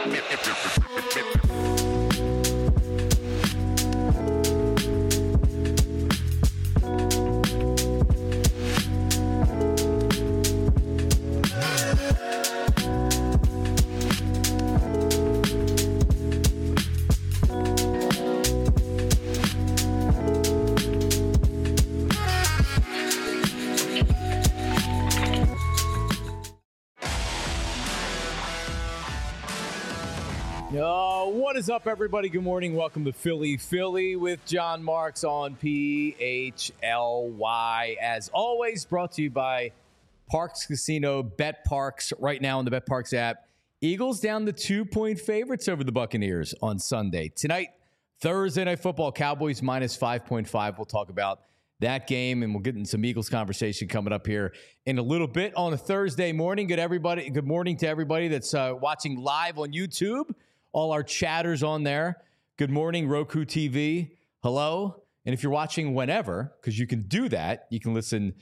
What is up, everybody? Good morning. Welcome to Philly with John Marks on PHLY. As always, brought to you by Parx Casino, Bet Parx, right now on the Bet Parx app. Eagles down to 2-point favorites over the Buccaneers on Sunday. Tonight, Thursday Night Football, Cowboys minus 5.5. We'll talk about that game, and we'll get in some Eagles conversation coming up here in a little bit on a Thursday morning. Good morning to everybody that's watching live on YouTube. All our chatters on there. Good morning, Roku TV. Hello. And if you're watching whenever, because you can do that, you can listen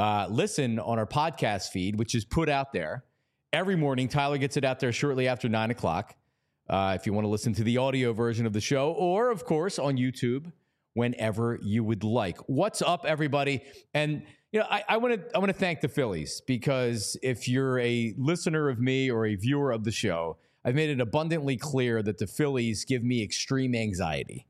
on our podcast feed, which is put out there every morning. Tyler gets it out there shortly after 9 o'clock. If you want to listen to the audio version of the show, or of course on YouTube, whenever you would like. What's up, everybody? And I want to thank the Phillies, because if you're a listener of me or a viewer of the show, I've made it abundantly clear that the Phillies give me extreme anxiety.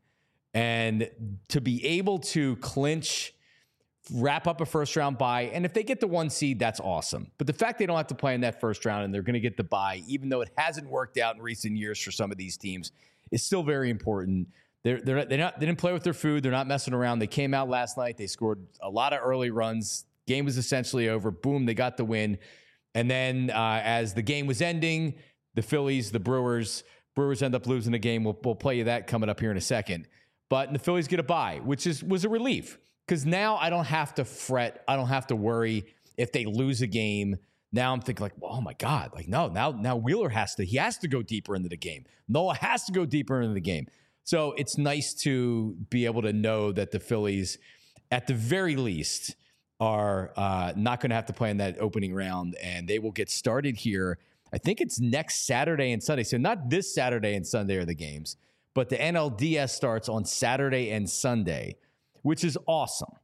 And to be able to clinch, wrap up a first-round bye, and if they get the 1 seed, that's awesome. But the fact they don't have to play in that first round and they're going to get the bye, even though it hasn't worked out in recent years for some of these teams, is still very important. They didn't play with their food. They're not messing around. They came out last night. They scored a lot of early runs. Game was essentially over. Boom, they got the win. And then as the game was ending, the Phillies, the Brewers end up losing the game. We'll play you that coming up here in a second. But the Phillies get a bye, which was a relief, because now I don't have to fret. I don't have to worry if they lose a game. Now I'm thinking like, oh my God, like no, now Wheeler has to go deeper into the game. Noah has to go deeper into the game. So it's nice to be able to know that the Phillies, at the very least, are not going to have to play in that opening round, and they will get started here. I think it's next Saturday and Sunday. So not this Saturday and Sunday are the games, but the NLDS starts on Saturday and Sunday, which is awesome.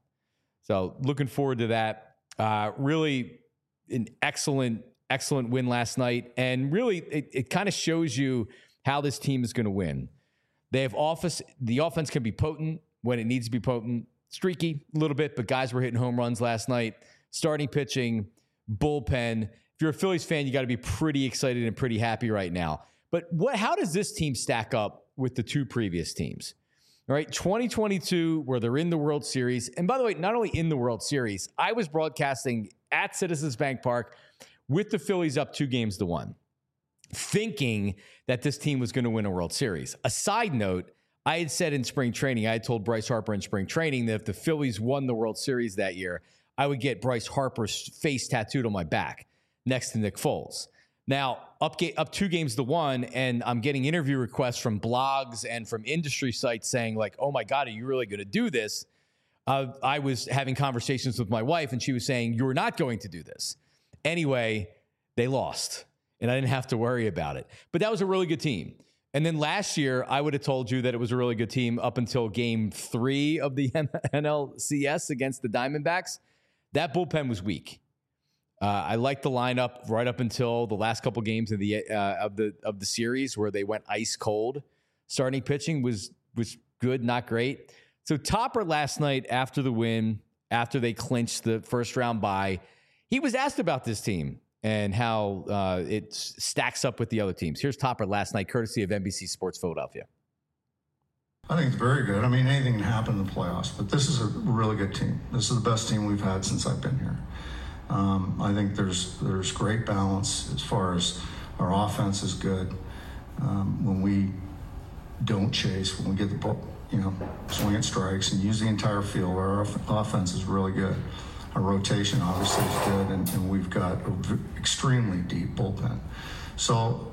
So looking forward to that. Really an excellent win last night. And really, it kind of shows you how this team is going to win. They have the offense can be potent when it needs to be potent, streaky a little bit, but guys were hitting home runs last night. Starting pitching, bullpen. If you're a Phillies fan, you got to be pretty excited and pretty happy right now. But how does this team stack up with the two previous teams? All right, 2022, where they're in the World Series. And by the way, not only in the World Series, I was broadcasting at Citizens Bank Park with the Phillies up 2-1, thinking that this team was going to win a World Series. A side note, I had said in spring training, I had told Bryce Harper in spring training that if the Phillies won the World Series that year, I would get Bryce Harper's face tattooed on my back next to Nick Foles. Now, up 2-1, and I'm getting interview requests from blogs and from industry sites saying like, oh my God, are you really going to do this? I was having conversations with my wife, and she was saying, you're not going to do this. Anyway, they lost, and I didn't have to worry about it. But that was a really good team. And then last year, I would have told you that it was a really good team up until Game 3 of the NLCS against the Diamondbacks. That bullpen was weak. I liked the lineup right up until the last couple games of the series, where they went ice cold. Starting pitching was good, not great. So Topper last night after the win, after they clinched the first round bye, he was asked about this team and how it stacks up with the other teams. Here's Topper last night, courtesy of NBC Sports Philadelphia. I think it's very good. I mean, anything can happen in the playoffs, but this is a really good team. This is the best team we've had since I've been here. I think there's great balance as far as our offense is good. When we don't chase, when we get the ball, swing at strikes and use the entire field, our offense is really good. Our rotation obviously is good, and we've got an extremely deep bullpen. So,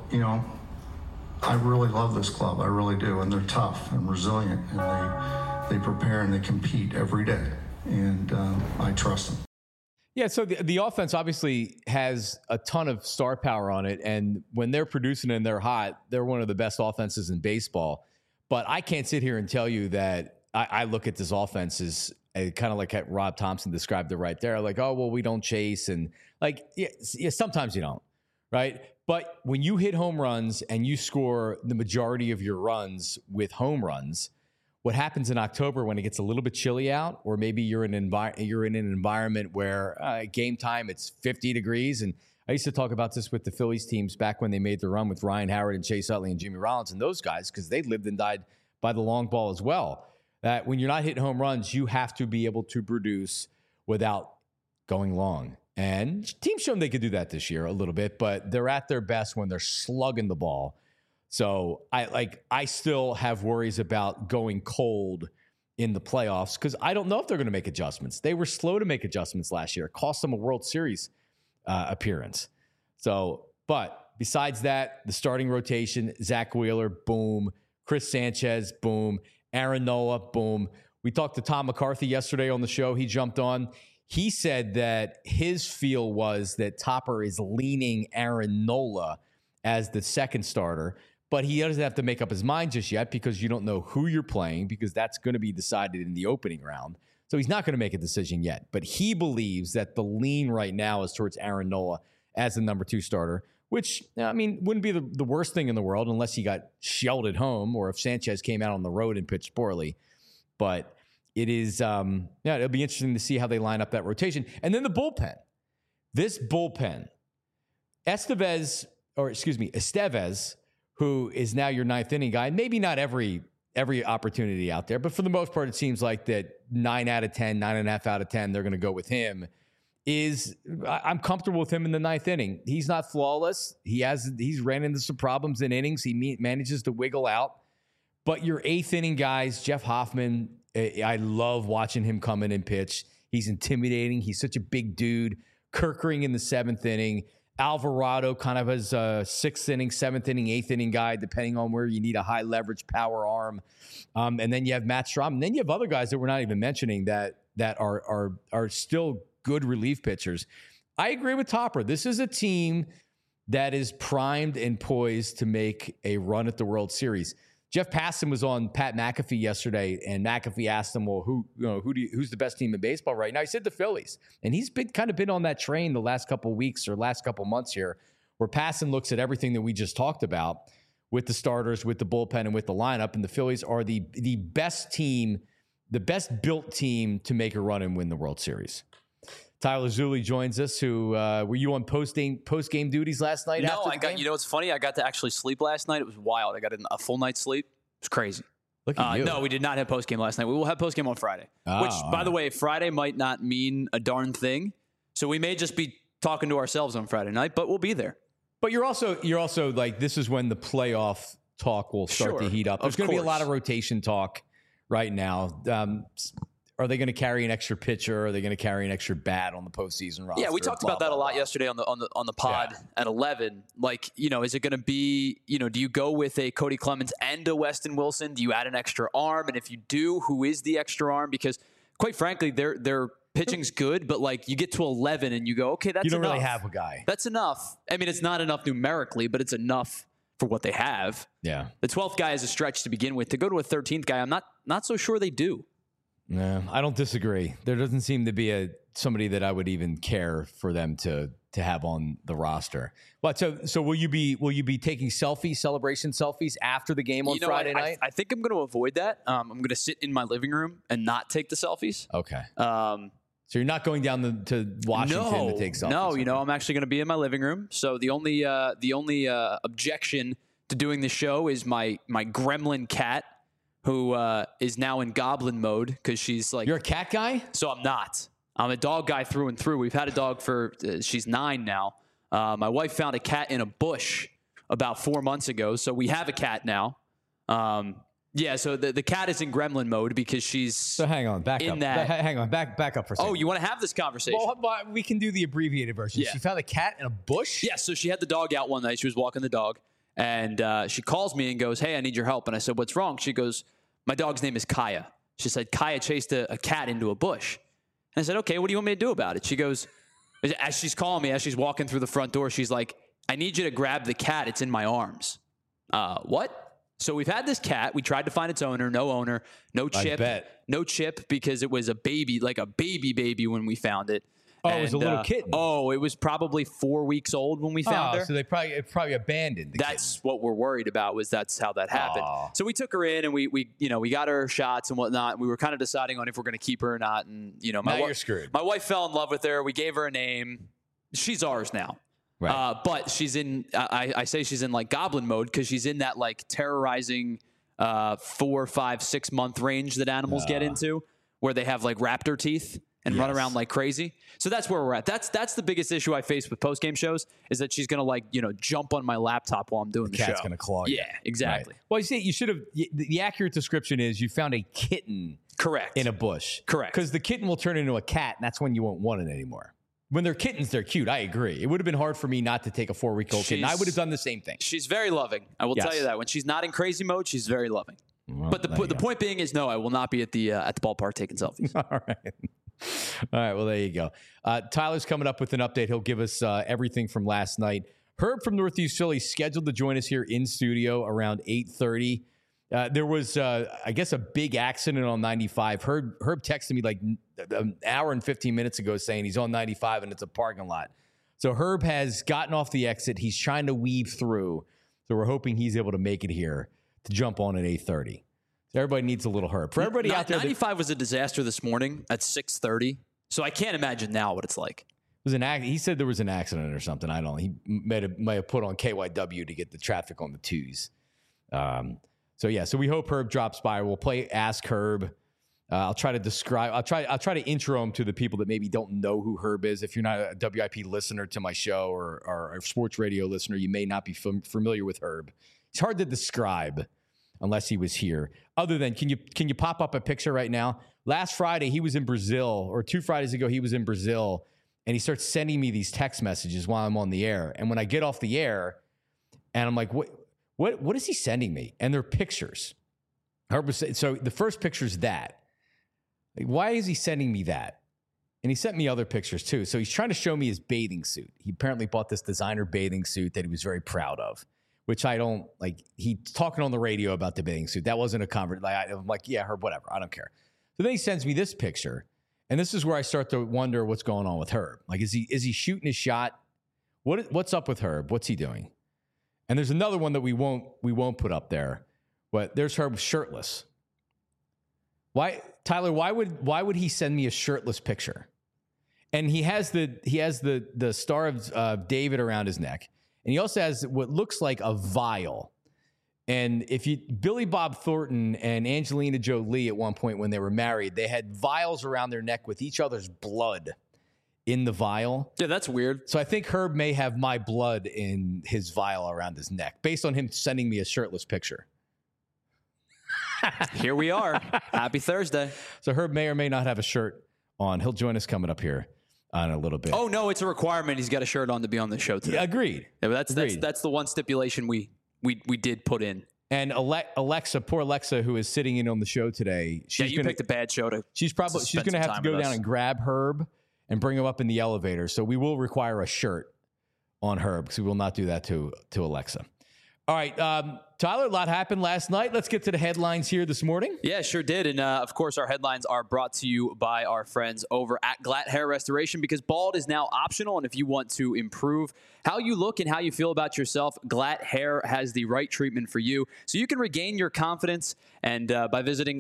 I really love this club. I really do. And they're tough and resilient, and they prepare and they compete every day. And I trust them. Yeah, so the offense obviously has a ton of star power on it, and when they're producing and they're hot, they're one of the best offenses in baseball. But I can't sit here and tell you that I look at this offense as kind of like Rob Thompson described it right there, like, oh, well, we don't chase, and like, yeah, sometimes you don't, right? But when you hit home runs and you score the majority of your runs with home runs, what happens in October when it gets a little bit chilly out, or maybe you're in an environment where game time it's 50 degrees. And I used to talk about this with the Phillies teams back when they made the run with Ryan Howard and Chase Utley and Jimmy Rollins and those guys, because they lived and died by the long ball as well. That when you're not hitting home runs, you have to be able to produce without going long. And teams shown they could do that this year a little bit, but they're at their best when they're slugging the ball. So I still have worries about going cold in the playoffs because I don't know if they're going to make adjustments. They were slow to make adjustments last year. It cost them a World Series appearance. So, but besides that, the starting rotation, Zach Wheeler, boom. Chris Sanchez, boom. Aaron Nola, boom. We talked to Tom McCarthy yesterday on the show. He jumped on. He said that his feel was that Topper is leaning Aaron Nola as the second starter. But he doesn't have to make up his mind just yet because you don't know who you're playing because that's going to be decided in the opening round. So he's not going to make a decision yet. But he believes that the lean right now is towards Aaron Nola as the number 2 starter, which, I mean, wouldn't be the worst thing in the world unless he got shelled at home or if Sanchez came out on the road and pitched poorly. But it is, it'll be interesting to see how they line up that rotation. And then the bullpen. This bullpen, Estevez, who is now your 9th inning guy. Maybe not every opportunity out there, but for the most part, it seems like that 9 out of 10, 9.5 out of 10, they're going to go with him. I'm comfortable with him in the 9th inning. He's not flawless. He's ran into some problems in innings. He manages to wiggle out. But your 8th inning guys, Jeff Hoffman, I love watching him come in and pitch. He's intimidating. He's such a big dude. Kerkering in the 7th inning. Alvarado kind of as a 6th inning, 7th inning, 8th inning guy, depending on where you need a high leverage power arm. And then you have Matt Strom. And then you have other guys that we're not even mentioning that are still good relief pitchers. I agree with Topper. This is a team that is primed and poised to make a run at the World Series. Jeff Passan was on Pat McAfee yesterday, and McAfee asked him, well, who's the best team in baseball right now? He said the Phillies. And he's been on that train the last couple of weeks or last couple of months here, where Passan looks at everything that we just talked about with the starters, with the bullpen, and with the lineup. And the Phillies are the best team, the best built team to make a run and win the World Series. Tyler Zulli joins us. Who were you on post game duties last night? No, I got. You know, what's funny? I got to actually sleep last night. It was wild. I got a full night's sleep. It was crazy. Look at you. No, we did not have post game last night. We will have post game on Friday. Which, by the way, Friday might not mean a darn thing. So we may just be talking to ourselves on Friday night, but we'll be there. But you're also like, this is when the playoff talk will start to heat up. There's going to be a lot of rotation talk right now. Are they going to carry an extra pitcher? Are they going to carry an extra bat on the postseason roster? Yeah, we talked about that a lot yesterday on the pod at 11. Like, is it going to be, do you go with a Cody Clemens and a Weston Wilson? Do you add an extra arm? And if you do, who is the extra arm? Because quite frankly, their pitching's good, but like you get to 11 and you go, okay, that's enough. You don't really have a guy. That's enough. I mean, it's not enough numerically, but it's enough for what they have. Yeah. The 12th guy is a stretch to begin with. To go to a 13th guy, I'm not so sure they do. No, I don't disagree. There doesn't seem to be somebody that I would even care for them to have on the roster. But so will you be taking celebration selfies after the game on Friday night? I think I'm going to avoid that. I'm going to sit in my living room and not take the selfies. Okay. So you're not going down to Washington to take selfies? No, I'm actually going to be in my living room. So the only objection to doing the show is my gremlin cat, who is now in goblin mode because she's like... You're a cat guy? So I'm not. I'm a dog guy through and through. We've had a dog for... she's 9 now. My wife found a cat in a bush about 4 months ago, so we have a cat now. So the cat is in gremlin mode because she's... So hang on, back up. Hang on, back up for a second. Oh, you want to have this conversation? Well, we can do the abbreviated version. Yeah. She found a cat in a bush? Yeah, so she had the dog out one night. She was walking the dog, and she calls me and goes, hey, I need your help. And I said, what's wrong? She goes... My dog's name is Kaya. She said, Kaya chased a cat into a bush. And I said, okay, what do you want me to do about it? She goes, As she's calling me, as she's walking through the front door, she's like, I need you to grab the cat. It's in my arms. What? So we've had this cat. We tried to find its owner, no chip. No chip because it was a baby, like a baby when we found it. Oh, it was a little kitten. Oh, it was probably 4 weeks old when we found her. So it probably abandoned the That's what we're worried about, was that's how that happened. So we took her in and we got her shots and whatnot. And we were kind of deciding on if we're going to keep her or not. And, now you're screwed. My wife fell in love with her. We gave her a name. She's ours now. Right. But she's in, I say she's in like goblin mode because she's in that like terrorizing 4, 5, 6 month range that animals get into, where they have like raptor teeth and run around like crazy. So that's where we're at. That's the biggest issue I face with post game shows, is that she's going to jump on my laptop while I'm doing the show. Cat's going to claw you. Yeah, exactly. Right. Well, you should have, the accurate description is you found a kitten. Correct. In a bush. Correct. Because the kitten will turn into a cat, and that's when you won't want it anymore. When they're kittens, they're cute. I agree. It would have been hard for me not to take a 4-week-old kitten. I would have done the same thing. She's very loving. I will tell you that. When she's not in crazy mode, she's very loving. Well, but the point being is, no, I will not be at the ballpark taking selfies. All right. Well, there you go. Tyler's coming up with an update. He'll give us everything from last night. Herb from Northeast Philly scheduled to join us here in studio around 8:30. There was, I guess, a big accident on 95. Herb texted me like an hour and 15 minutes ago saying he's on 95 and it's a parking lot. So Herb has gotten off the exit. He's trying to weave through. So we're hoping he's able to make it here to jump on at 8:30. So everybody needs a little Herb. For everybody out there, 95 was a disaster this morning at 6:30. So I can't imagine now what it's like. It was he said there was an accident or something. I don't know. He may have put on KYW to get the traffic on the twos. So we hope Herb drops by. We'll play Ask Herb. I'll try to intro him to the people that maybe don't know who Herb is. If you're not a WIP listener to my show or a sports radio listener, you may not be familiar with Herb. It's hard to describe unless he was here. Other than, can you pop up a picture right now? Last Friday he was in Brazil, or 2 Fridays ago he was in Brazil, and he starts sending me these text messages while I'm on the air. And when I get off the air, and I'm like, what is he sending me? And they're pictures. So the first picture is that. Like, why is he sending me that? And he sent me other pictures too. So he's trying to show me his bathing suit. He apparently bought this designer bathing suit that he was very proud of, which I don't like. He's talking on the radio about the bathing suit. That wasn't a conversation. I'm like, yeah, Herb, whatever. I don't care. So then he sends me this picture. And this is where I start to wonder what's going on with Herb. Like, is he shooting his shot? What's up with Herb? What's he doing? And there's another one that we won't put up there, but there's Herb shirtless. Why, Tyler? Why would he send me a shirtless picture? And he has the Star of David around his neck, and he also has what looks like a vial. And Billy Bob Thornton and Angelina Jolie at one point when they were married, they had vials around their neck with each other's blood in the vial. Yeah, that's weird. So I think Herb may have my blood in his vial around his neck, based on him sending me a shirtless picture. Here we are. Happy Thursday. So Herb may or may not have a shirt on. He'll join us coming up here in a little bit. Oh, no, it's a requirement. He's got a shirt on to be on the show today. Yeah, agreed. Yeah, but that's the one stipulation we did put in. And Alexa, poor Alexa, who is sitting in on the show today. You picked a bad show to. She's going to have to go down and grab Herb and bring him up in the elevator. So we will require a shirt on Herb, because we will not do that to Alexa. All right, Tyler, a lot happened last night. Let's get to the headlines here this morning. Yeah, sure did. And, of course, our headlines are brought to you by our friends over at Glatt Hair Restoration, because bald is now optional. And if you want to improve how you look and how you feel about yourself, Glatt Hair has the right treatment for you. So you can regain your confidence and by visiting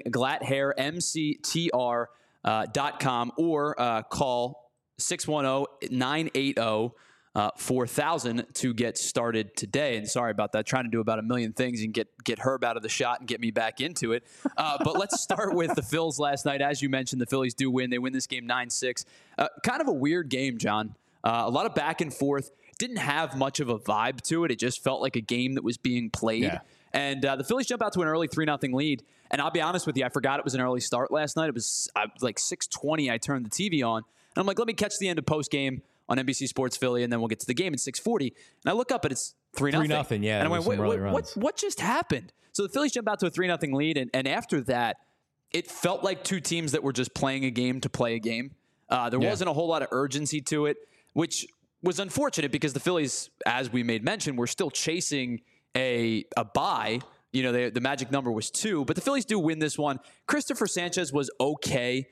glatthairmctr.com or call 610-980 4,000 to get started today. And sorry about that. Trying to do about a million things and get Herb out of the shot and get me back into it. But let's start with the Phils last night. As you mentioned, the Phillies do win. They win this game 9-6. Kind of a weird game, John. A lot of back and forth. Didn't have much of a vibe to it. It just felt like a game that was being played. Yeah. And the Phillies jump out to an early 3-0 lead. And I'll be honest with you, I forgot it was an early start last night. It was like 6:20. I turned the TV on. And I'm like, let me catch the end of postgame on NBC Sports Philly, and then we'll get to the game at 6:40. And I look up, and it's 3-0. 3-0, yeah. And I went, wait, what just happened? So the Phillies jump out to a 3-0 lead, and after that, it felt like two teams that were just playing a game to play a game. There wasn't a whole lot of urgency to it. which was unfortunate because the Phillies, as we made mention, were still chasing a bye. You know, the magic number was 2, but the Phillies do win this one. Christopher Sanchez was okay.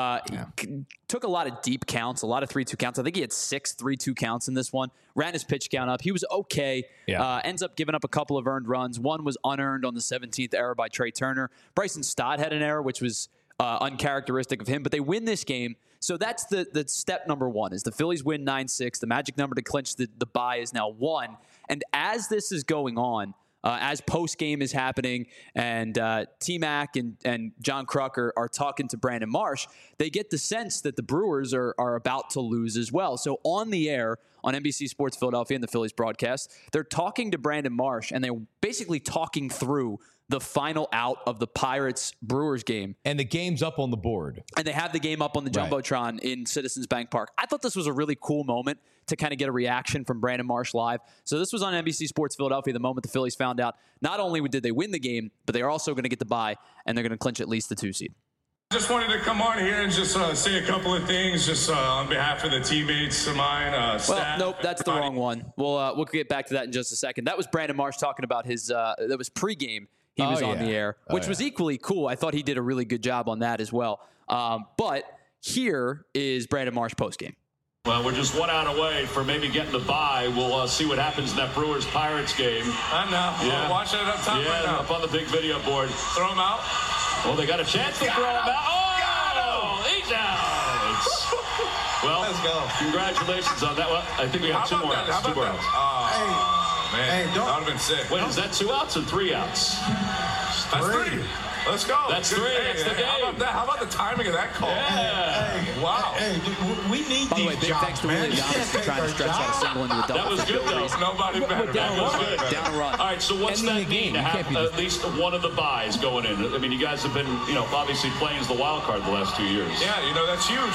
Took a lot of deep counts, a lot of 3-2 counts. I think he had 6 3-2 counts in this one. Ran his pitch count up. He was okay. Ends up giving up a couple of earned runs. One was unearned on the 17th error by Trey Turner. Bryson Stott had an error, which was uncharacteristic of him, but they win this game. So that's the step number 1 is the Phillies win 9-6. The magic number to clinch the bye is now 1. And as this is going on, as post-game is happening and T-Mac and John Kruk are talking to Brandon Marsh, they get the sense that the Brewers are about to lose as well. So on the air on NBC Sports Philadelphia and the Phillies broadcast, they're talking to Brandon Marsh, and they're basically talking through the final out of the Pirates-Brewers game. And the game's up on the board. And they have the game up on the Jumbotron in Citizens Bank Park. I thought this was a really cool moment to kind of get a reaction from Brandon Marsh live. So this was on NBC Sports Philadelphia the moment the Phillies found out not only did they win the game, but they are also going to get the bye, and they're going to clinch at least the 2 seed. Just wanted to come on here and just say a couple of things just on behalf of the teammates of mine, staff. Well, nope, that's the wrong one. We'll get back to that in just a second. That was Brandon Marsh talking about his that was pregame. He was on the air, which was equally cool. I thought he did a really good job on that as well. But here is Brandon Marsh postgame. Well, we're just 1 out away for maybe getting the bye. We'll see what happens in that Brewers-Pirates game. I know. Yeah. Watch it up top right now. Up on the big video board. Throw him out. Well, they got a chance to throw him out. Oh, he's out. Well, let's go. Congratulations on that one. I think we got 2 more outs. 2 more outs. Man, that would have been sick. Wait, is that 2 outs or 3 outs? That's 3. Let's go. That's 3. That's the game. How about the timing of that call? Yeah. Wow. Hey, we need By the way, big thanks to Willie Giannis for trying to stretch out a single into a double. That was good, though. Nobody better. Down a run. All right, so what's that mean to have at least one of the buys going in? I mean, you guys have been, obviously playing as the wild card the last 2 years. Yeah, that's huge.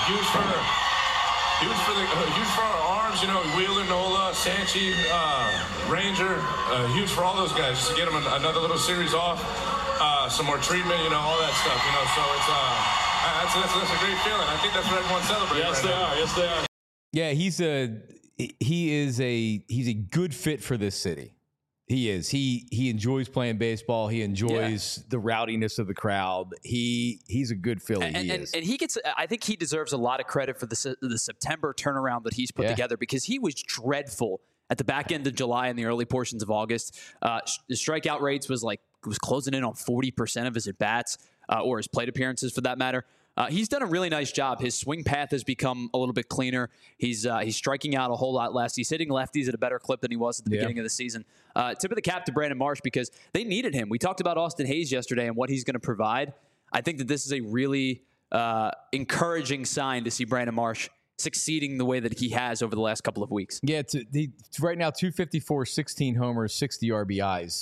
Huge for our arms, Wheeler, Nola, Sanchi, Ranger, huge for all those guys, just to get them another little series off, some more treatment, all that stuff, so that's a great feeling. I think that's what everyone's celebrating. Yes, they are. Yeah, he's a good fit for this city. He is. He enjoys playing baseball. He enjoys the rowdiness of the crowd. He's a good Philly. And he gets. I think he deserves a lot of credit for the September turnaround that he's put together, because he was dreadful at the back end of July and the early portions of August. The strikeout rates was closing in on 40% of his at bats, or his plate appearances for that matter. He's done a really nice job. His swing path has become a little bit cleaner. He's striking out a whole lot less. He's hitting lefties at a better clip than he was at the beginning of the season. Tip of the cap to Brandon Marsh, because they needed him. We talked about Austin Hayes yesterday and what he's going to provide. I think that this is a really encouraging sign to see Brandon Marsh succeeding the way that he has over the last couple of weeks. Yeah, right now 254, 16 homers, 60 RBIs.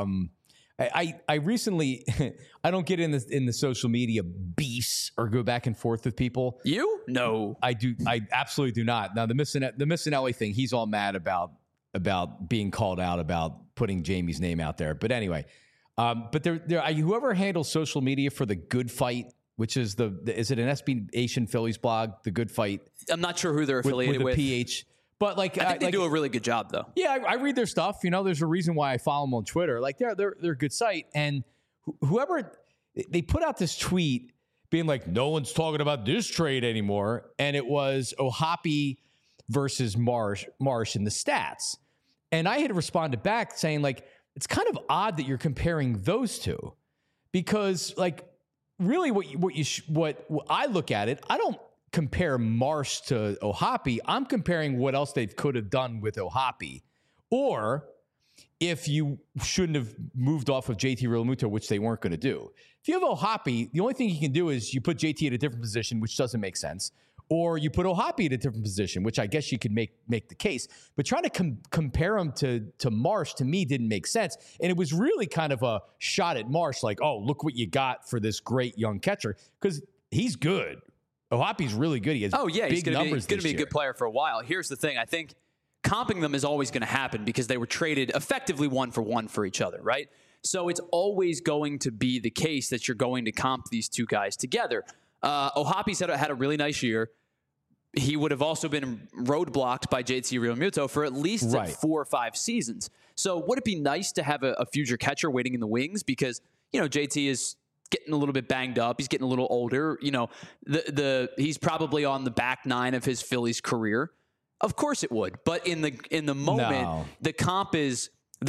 I recently I don't get in the social media beefs or go back and forth with people. You? No, I do. I absolutely do not. Now the Missinelli thing, he's all mad about being called out about putting Jamie's name out there. But anyway, but whoever handles social media for the Good Fight, which is is it an SB Nation Phillies blog, the Good Fight? I'm not sure who they're affiliated with. PH. But I think they do a really good job, though. Yeah, I read their stuff. There's a reason why I follow them on Twitter. They're a good site. And whoever they put out this tweet being like, no one's talking about this trade anymore, and it was O'Hoppe versus Marsh in the stats. And I had responded back saying it's kind of odd that you're comparing those two, because really what I look at it, I don't compare Marsh to O'Hoppe. I'm comparing what else they could have done with O'Hoppe, or if you shouldn't have moved off of JT Realmuto, which they weren't going to do. If you have O'Hoppe, the only thing you can do is you put JT at a different position, which doesn't make sense, or you put O'Hoppe at a different position, which I guess you could make the case. But trying to compare him to Marsh, to me, didn't make sense. And it was really kind of a shot at Marsh, oh, look what you got for this great young catcher, because he's good. O'Hoppe's really good. He has he's big numbers. Going to be a good player for a while. Here's the thing. I think comping them is always going to happen because they were traded effectively 1-for-1 for each other, right? So it's always going to be the case that you're going to comp these two guys together. O'Hoppe's had a really nice year. he would have also been roadblocked by JT Realmuto for at least 4 or 5 seasons. So would it be nice to have a future catcher waiting in the wings? Because, JT is getting a little bit banged up. He's getting a little older. He's probably on the back 9 of his Phillies career. Of course it would. But in the moment, the comp is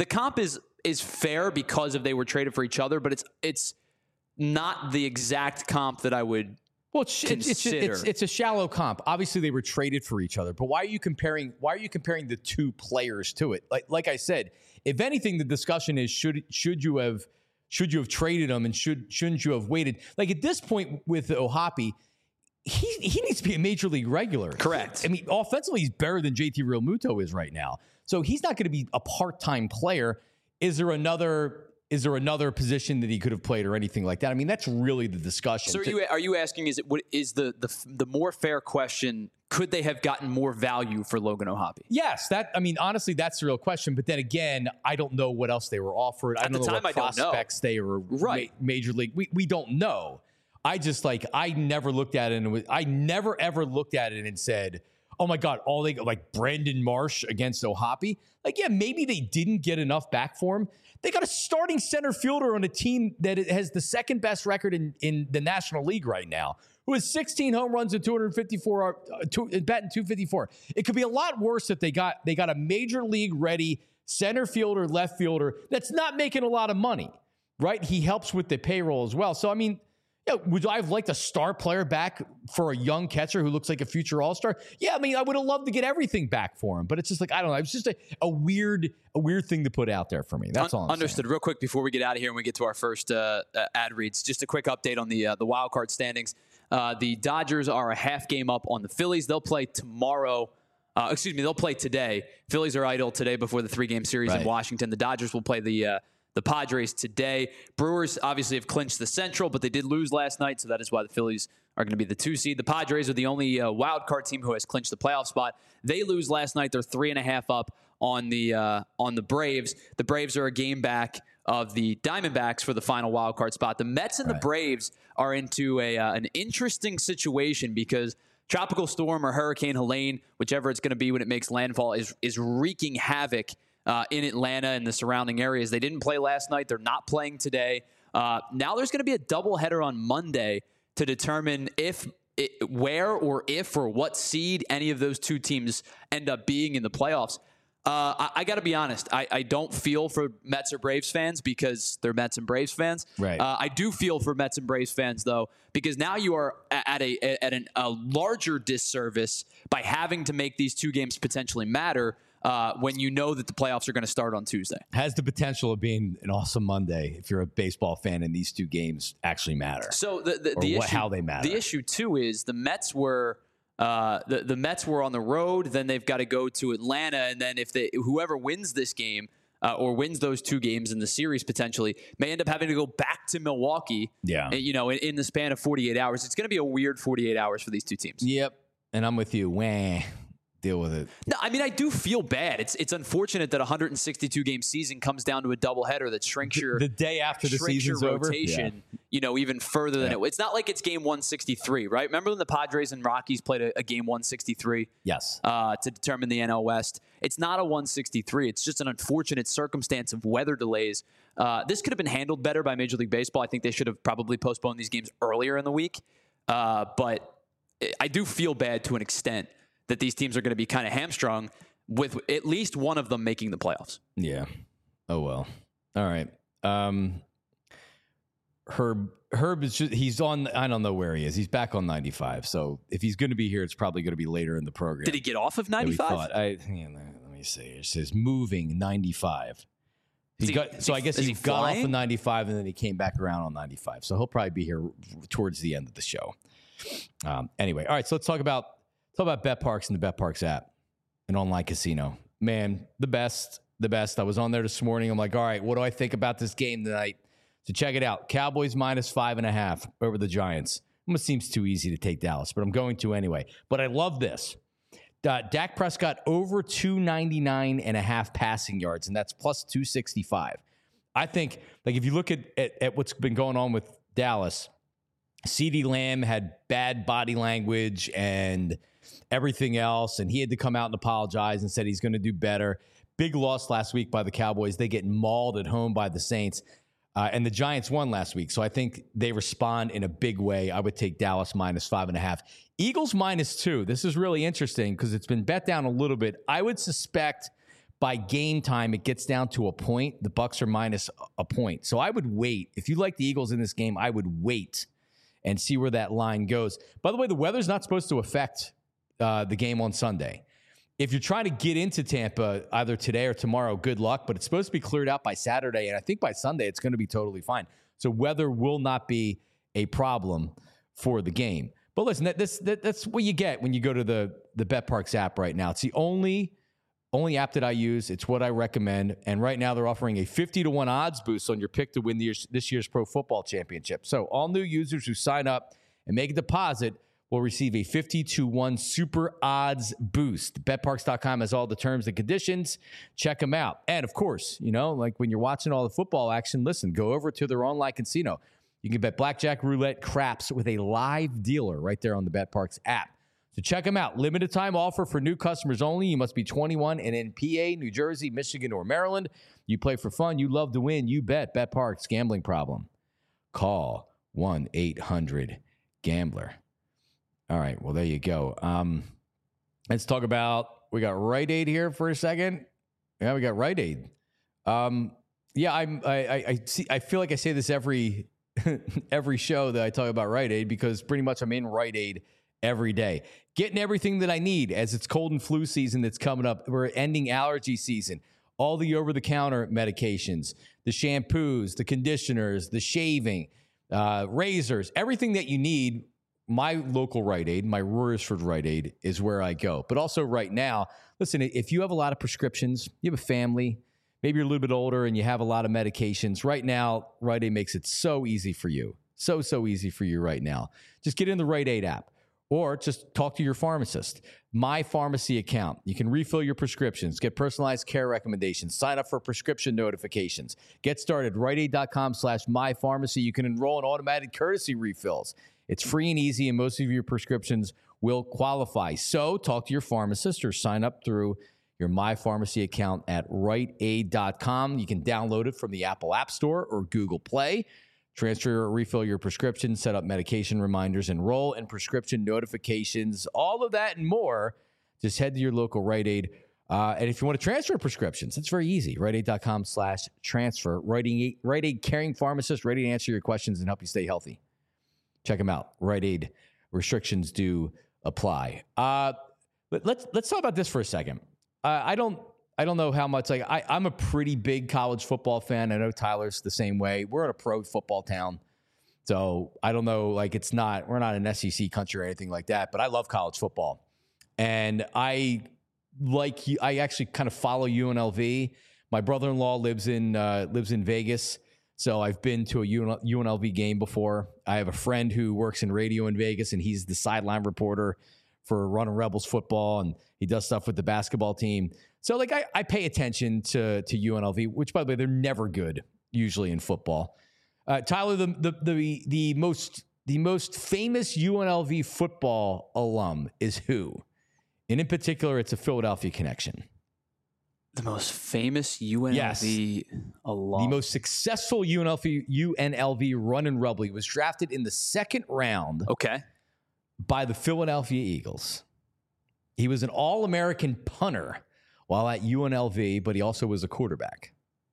fair because they were traded for each other, but it's not the exact comp that I would consider. It's a shallow comp. Obviously, they were traded for each other, but why are you comparing the 2 players to it? Like I said, if anything, the discussion is should you have traded him and shouldn't you have waited? Like at this point with O'Hoppe, he needs to be a major league regular. Correct. I mean, offensively, he's better than JT Realmuto is right now. So he's not going to be a part-time player. Is there another position that he could have played or anything like that? I mean, that's really the discussion. So are you asking, is the more fair question, could they have gotten more value for Logan O'Hoppe? Yes. Honestly, that's the real question. But then again, I don't know what else they were offered. I don't know what prospects they were major league. We don't know. I just I never looked at it and I never ever looked at it and said, oh my God, all they like Brandon Marsh against O'Hoppe. Maybe they didn't get enough back for him. They got a starting center fielder on a team that has the second best record in the National League right now, who has 16 home runs and 254 batting 254. It could be a lot worse if they got a major league ready center fielder, left fielder that's not making a lot of money, right? He helps with the payroll as well. So I mean, would I have liked a star player back for a young catcher who looks like a future all-star? Yeah, I mean, I would have loved to get everything back for him, but it's just I don't know. It's just a weird thing to put out there for me. That's all I'm understood. saying. Real quick before we get out of here and we get to our first ad reads, just a quick update on the wild card standings. The Dodgers are a half game up on the Phillies. They'll play tomorrow. They'll play today. Phillies are idle today before the 3-game series in Washington. The Dodgers will play the Padres today. Brewers obviously have clinched the Central, but they did lose last night, so that is why the Phillies are going to be the 2 seed. The Padres are the only wild card team who has clinched the playoff spot. They lose last night. They're 3.5 up on the Braves. The Braves are a game back of the Diamondbacks for the final wild card spot. The Mets and the Braves are into an interesting situation because Tropical Storm or Hurricane Helene, whichever it's going to be when it makes landfall, is wreaking havoc in Atlanta and the surrounding areas. They didn't play last night. They're not playing today. Now there's going to be a doubleheader on Monday to determine where or what seed any of those 2 teams end up being in the playoffs. I got to be honest. I don't feel for Mets or Braves fans because they're Mets and Braves fans. Right. I do feel for Mets and Braves fans, though, because now you are at a larger disservice by having to make these 2 games potentially matter when you know that the playoffs are going to start on Tuesday. Has the potential of being an awesome Monday if you're a baseball fan and these 2 games actually matter. So the issue, how they matter. The issue, too, is the Mets were the Mets were on the road. Then they've got to go to Atlanta. And then whoever wins this game or wins those 2 games in the series potentially may end up having to go back to Milwaukee. Yeah. In the span of 48 hours. It's going to be a weird 48 hours for these 2 teams. Yep. And I'm with you. Deal with it. No, I mean, I do feel bad. It's unfortunate that a 162-game season comes down to a doubleheader that shrinks your the day after the season's rotation, over. Even further than it's not like it's game 163, right? Remember when the Padres and Rockies played a game 163? Yes. To determine the NL West. It's not a 163. It's just an unfortunate circumstance of weather delays. This could have been handled better by Major League Baseball. I think they should have probably postponed these games earlier in the week. But I do feel bad to an extent that these teams are going to be kind of hamstrung with at least one of them making the playoffs. Yeah. Oh, well. All right. Herb is he's on, I don't know where he is. He's back on 95. So if he's going to be here, it's probably going to be later in the program. Did he get off of 95? Let me see. It says moving 95. I guess he got off of 95 and then he came back around on 95. So he'll probably be here towards the end of the show. Anyway. All right. So let's talk about BetParx and the BetParx app, an online casino. Man, the best. I was on there this morning. I'm like, all right, what do I think about this game tonight? So check it out. Cowboys minus 5.5 over the Giants. Almost seems too easy to take Dallas, but I'm going to anyway. But I love this. Dak Prescott over 299.5 passing yards, and that's plus 265. I think, if you look at what's been going on with Dallas, CeeDee Lamb had bad body language and everything else. And he had to come out and apologize and said he's going to do better. Big loss last week by the Cowboys. They get mauled at home by the Saints. And the Giants won last week. So I think they respond in a big way. I would take Dallas -5.5. Eagles -2. This is really interesting because it's been bet down a little bit. I would suspect by game time it gets down to a point. The Bucs are minus a point. So I would wait. If you like the Eagles in this game, I would wait and see where that line goes. By the way, the weather's not supposed to affect the game on Sunday. If you're trying to get into Tampa either today or tomorrow, good luck. But it's supposed to be cleared out by Saturday. And I think by Sunday, it's going to be totally fine. So weather will not be a problem for the game. But listen, that's what you get when you go to the BetParx app right now. It's the only app that I use. It's what I recommend. And right now they're offering a 50-1 odds boost on your pick to win this year's Pro Football Championship. So all new users who sign up and make a deposit will receive a 50-1 super odds boost. BetParx.com has all the terms and conditions. Check them out. And of course, like when you're watching all the football action, listen, go over to their online casino. You can bet blackjack, roulette, craps with a live dealer right there on the BetParx app. So check them out. Limited time offer for new customers only. You must be 21 and in PA, New Jersey, Michigan, or Maryland. You play for fun. You love to win. You bet. BetParx. Gambling problem? Call 1-800-GAMBLER. All right, well, there you go. Let's talk about, we got Rite Aid here for a second. Yeah, we got Rite Aid. I feel like I say this every show that I talk about Rite Aid because pretty much I'm in Rite Aid every day. Getting everything that I need as it's cold and flu season that's coming up. We're ending allergy season. All the over-the-counter medications, the shampoos, the conditioners, the shaving, razors, everything that you need. My local Rite Aid, my Royersford Rite Aid, is where I go. But also right now, listen, if you have a lot of prescriptions, you have a family, maybe you're a little bit older and you have a lot of medications, right now, Rite Aid makes it so easy for you. So easy for you right now. Just get in the Rite Aid app or just talk to your pharmacist. My Pharmacy account. You can refill your prescriptions, get personalized care recommendations, sign up for prescription notifications. Get started. RiteAid.com/mypharmacy. You can enroll in automatic courtesy refills. It's free and easy, and most of your prescriptions will qualify. So talk to your pharmacist or sign up through your My Pharmacy account at RiteAid.com. You can download it from the Apple App Store or Google Play. Transfer or refill your prescription, set up medication reminders, enroll in prescription notifications, all of that and more. Just head to your local Rite Aid. And if you want to transfer prescriptions, it's very easy. RiteAid.com/transfer. Rite Aid caring pharmacist, ready to answer your questions and help you stay healthy. Check them out. Rite Aid. Restrictions do apply. Let's talk about this for a second. I don't know how much. I'm a pretty big college football fan. I know Tyler's the same way. We're in a pro football town, so I don't know. We're not an SEC country or anything like that. But I love college football, and I actually kind of follow UNLV. My brother-in-law lives in Vegas. So I've been to a UNLV game before. I have a friend who works in radio in Vegas, and he's the sideline reporter for Running Rebels football, and he does stuff with the basketball team. So I pay attention to UNLV, which, by the way, they're never good usually in football. Tyler, the most famous UNLV football alum is who? And in particular, it's a Philadelphia connection. The most famous UNLV alum. The most successful UNLV running rebel. He was drafted in the second round by the Philadelphia Eagles. He was an All-American punter while at UNLV, but he also was a quarterback.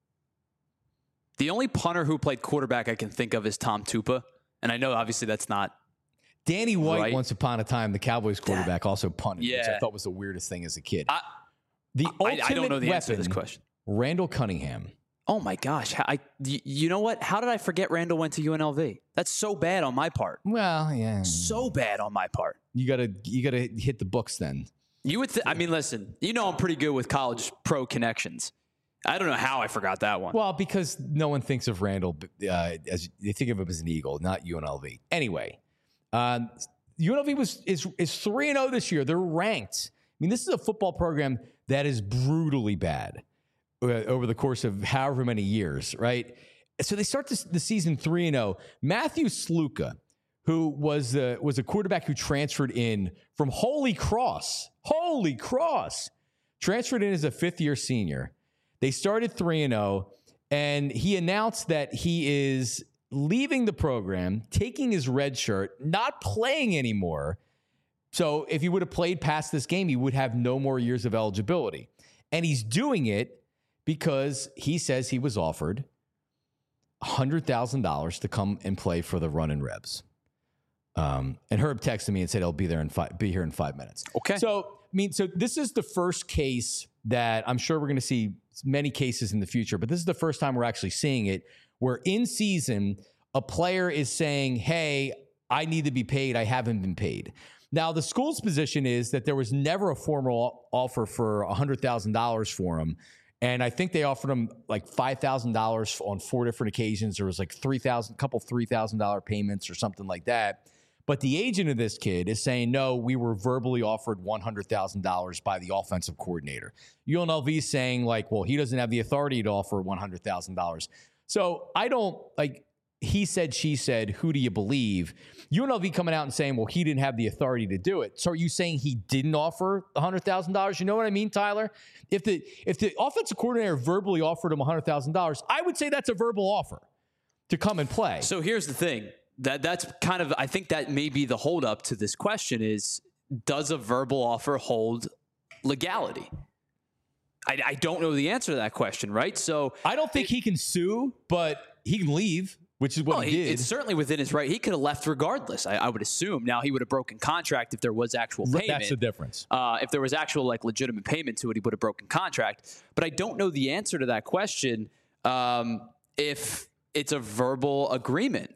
The only punter who played quarterback I can think of is Tom Tupa. And I know, obviously, that's not Danny White, right. Once upon a time, the Cowboys quarterback, also punted, which I thought was the weirdest thing as a kid. I don't know the answer to this question. Randall Cunningham. Oh my gosh! You know what? How did I forget Randall went to UNLV? That's so bad on my part. Well, yeah, so bad on my part. You gotta hit the books then. You would. Listen. I'm pretty good with college pro connections. I don't know how I forgot that one. Well, because no one thinks of Randall as they think of him as an Eagle, not UNLV. Anyway, UNLV is 3-0 this year. They're ranked. This is a football program that is brutally bad over the course of however many years, right? So they start the season 3-0. Matthew Sluka, who was a quarterback who transferred in from Holy Cross, transferred in as a fifth-year senior. They started 3-0, and he announced that he is leaving the program, taking his red shirt, not playing anymore. So if he would have played past this game, he would have no more years of eligibility. And he's doing it because he says he was offered $100,000 to come and play for the Runnin' Rebs. And Herb texted me and said he'll be here in 5 minutes. Okay. So this is the first case that I'm sure we're going to see many cases in the future, but this is the first time we're actually seeing it where in season a player is saying, hey, I need to be paid. I haven't been paid. Now, the school's position is that there was never a formal offer for $100,000 for him. And I think they offered him like $5,000 on 4 different occasions. There was like $3,000 payments or something like that. But the agent of this kid is saying, no, we were verbally offered $100,000 by the offensive coordinator. UNLV is saying like, well, he doesn't have the authority to offer $100,000. So I don't like, he said, she said, who do you believe? UNLV coming out and saying, well, he didn't have the authority to do it. So are you saying he didn't offer $100,000? You know what I mean, Tyler? If the offensive coordinator verbally offered him $100,000, I would say that's a verbal offer to come and play. So here's the thing. That's kind of, I think that may be the holdup to this question is, does a verbal offer hold legality? I don't know the answer to that question, right? So I don't think he can sue, but he can leave, which is what he did. It's certainly within his right. He could have left regardless, I would assume. Now, he would have broken contract if there was actual payment. That's the difference. If there was actual like legitimate payment to it, he would have broken contract. But I don't know the answer to that question if it's a verbal agreement.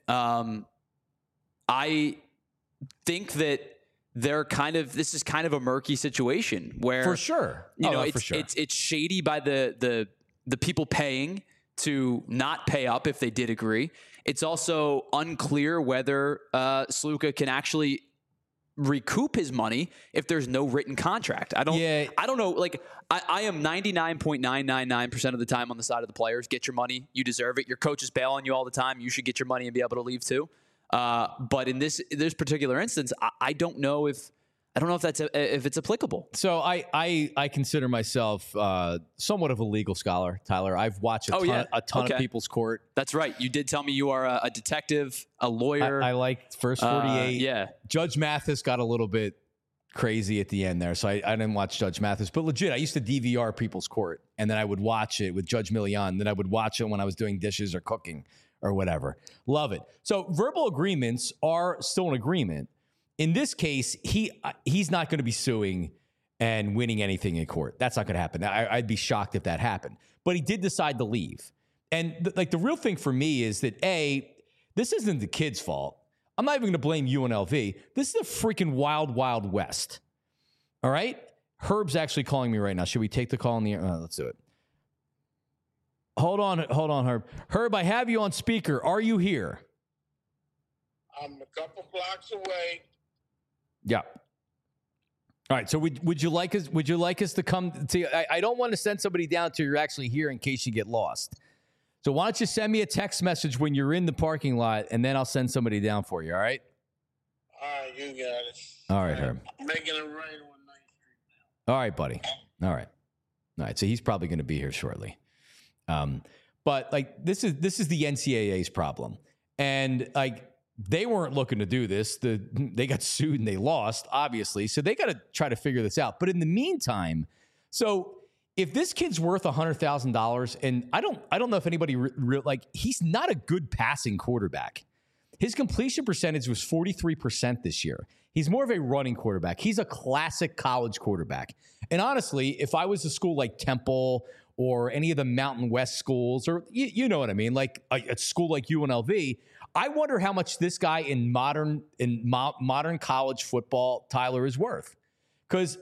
I think that this is kind of a murky situation where for sure, it's shady by the people paying to not pay up if they did agree. It's also unclear whether Sluka can actually recoup his money if there's no written contract. I don't know. Like I am 99.999% of the time on the side of the players. Get your money. You deserve it. Your coach is bailing you all the time. You should get your money and be able to leave too. But in this particular instance, I don't know if if it's applicable. So I consider myself somewhat of a legal scholar, Tyler. I've watched a ton of people's court. That's right. You did tell me you are a detective, a lawyer. I like First 48. Yeah. Judge Mathis got a little bit crazy at the end there, so I didn't watch Judge Mathis. But legit, I used to DVR people's court, and then I would watch it with Judge Milian. Then I would watch it when I was doing dishes or cooking or whatever. Love it. So verbal agreements are still an agreement. In this case, he's not going to be suing and winning anything in court. That's not going to happen. I'd be shocked if that happened. But he did decide to leave. And the real thing for me is that, this isn't the kid's fault. I'm not even going to blame UNLV. This is the freaking wild, wild west. All right? Herb's actually calling me right now. Should we take the call in the air? Let's do it. Hold on, Herb. Herb, I have you on speaker. Are you here? I'm a couple blocks away. Yeah. All right. So would you like us to come to? I don't want to send somebody down till you're actually here in case you get lost. So why don't you send me a text message when you're in the parking lot, and then I'll send somebody down for you. All right. All right, you got it. All right, Herb. I'm making it right on 9th Street now. All right, buddy. All right. So he's probably going to be here shortly. But like this is the NCAA's problem, and like they weren't looking to do this. They got sued and they lost, obviously. So they got to try to figure this out. But in the meantime, so if this kid's worth $100,000, and I don't know if anybody he's not a good passing quarterback. His completion percentage was 43% this year. He's more of a running quarterback. He's a classic college quarterback. And honestly, if I was a school like Temple or any of the Mountain West schools, or you know what I mean, like a school like UNLV, I wonder how much this guy in modern college football, Tyler, is worth. Because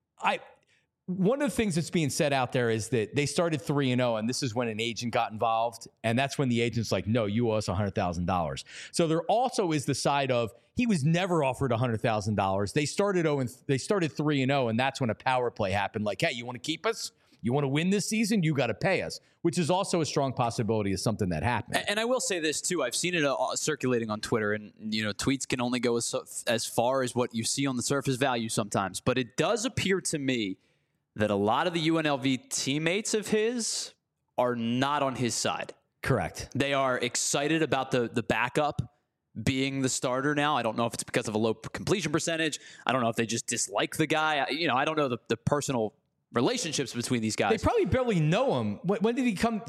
one of the things that's being said out there is that they started 3-0, and this is when an agent got involved, and that's when the agent's like, no, you owe us $100,000. So there also is the side of he was never offered $100,000. They started 3-0, and that's when a power play happened. Like, hey, you want to keep us? You want to win this season, you got to pay us, which is also a strong possibility of something that happened. And I will say this too. I've seen it circulating on Twitter, and tweets can only go as far as what you see on the surface value sometimes. But it does appear to me that a lot of the UNLV teammates of his are not on his side. Correct. They are excited about the backup being the starter now. I don't know if it's because of a low completion percentage. I don't know if they just dislike the guy. I don't know the personal relationships between these guys. They probably barely know him. When did he come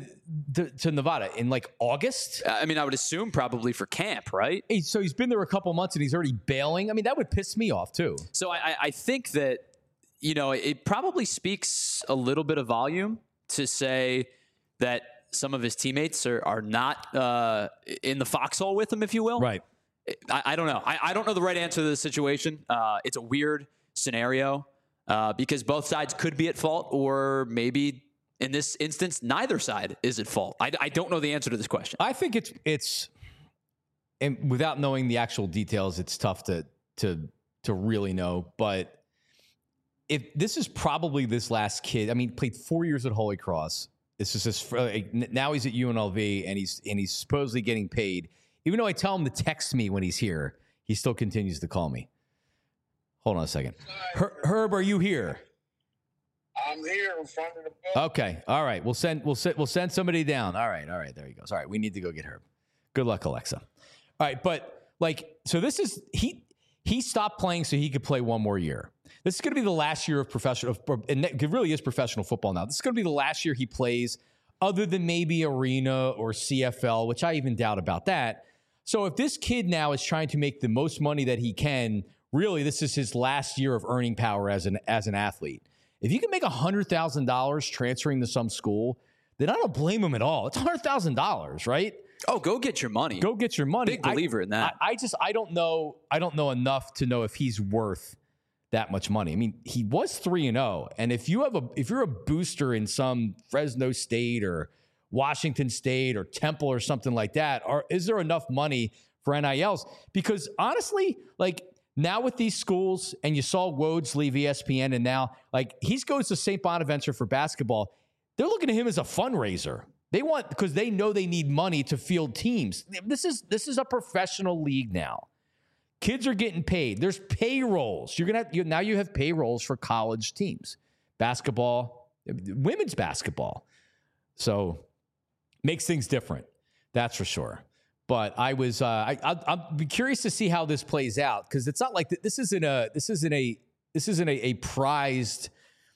to Nevada? In like August? I would assume probably for camp, right? So he's been there a couple months and he's already bailing. That would piss me off too. So I think that, it probably speaks a little bit of volume to say that some of his teammates are not in the foxhole with him, if you will. Right. I don't know. I don't know the right answer to this situation. It's a weird scenario because both sides could be at fault, or maybe in this instance, neither side is at fault. I don't know the answer to this question. I think it's and without knowing the actual details, it's tough to really know. But if this is probably this last kid, played 4 years at Holy Cross. This is now he's at UNLV and he's supposedly getting paid. Even though I tell him to text me when he's here, he still continues to call me. Hold on a second. Herb, are you here? I'm here in front of the building. Okay. All right. We'll send somebody down. All right. There he goes. All right. We need to go get Herb. Good luck, Alexa. All right. But so this is he stopped playing so he could play one more year. This is going to be the last year of professional, and it really is professional football now. This is going to be the last year he plays, other than maybe Arena or CFL, which I even doubt about that. So if this kid now is trying to make the most money that he can, really, this is his last year of earning power as an athlete. If you can make $100,000 transferring to some school, then I don't blame him at all. It's $100,000, right? Oh, go get your money. Go get your money. Big believer in that. I don't know enough to know if he's worth that much money. He was 3-0, and if you're a booster in some Fresno State or Washington State or Temple or something like that, is there enough money for NILs? Because honestly, now with these schools, and you saw Woj leave ESPN, and now he goes to St. Bonaventure for basketball. They're looking at him as a fundraiser. Because they know they need money to field teams. This is a professional league now. Kids are getting paid. There's payrolls. Now you have payrolls for college teams, basketball, women's basketball. So makes things different. That's for sure. But I'll be curious to see how this plays out, because it's not like this isn't a prized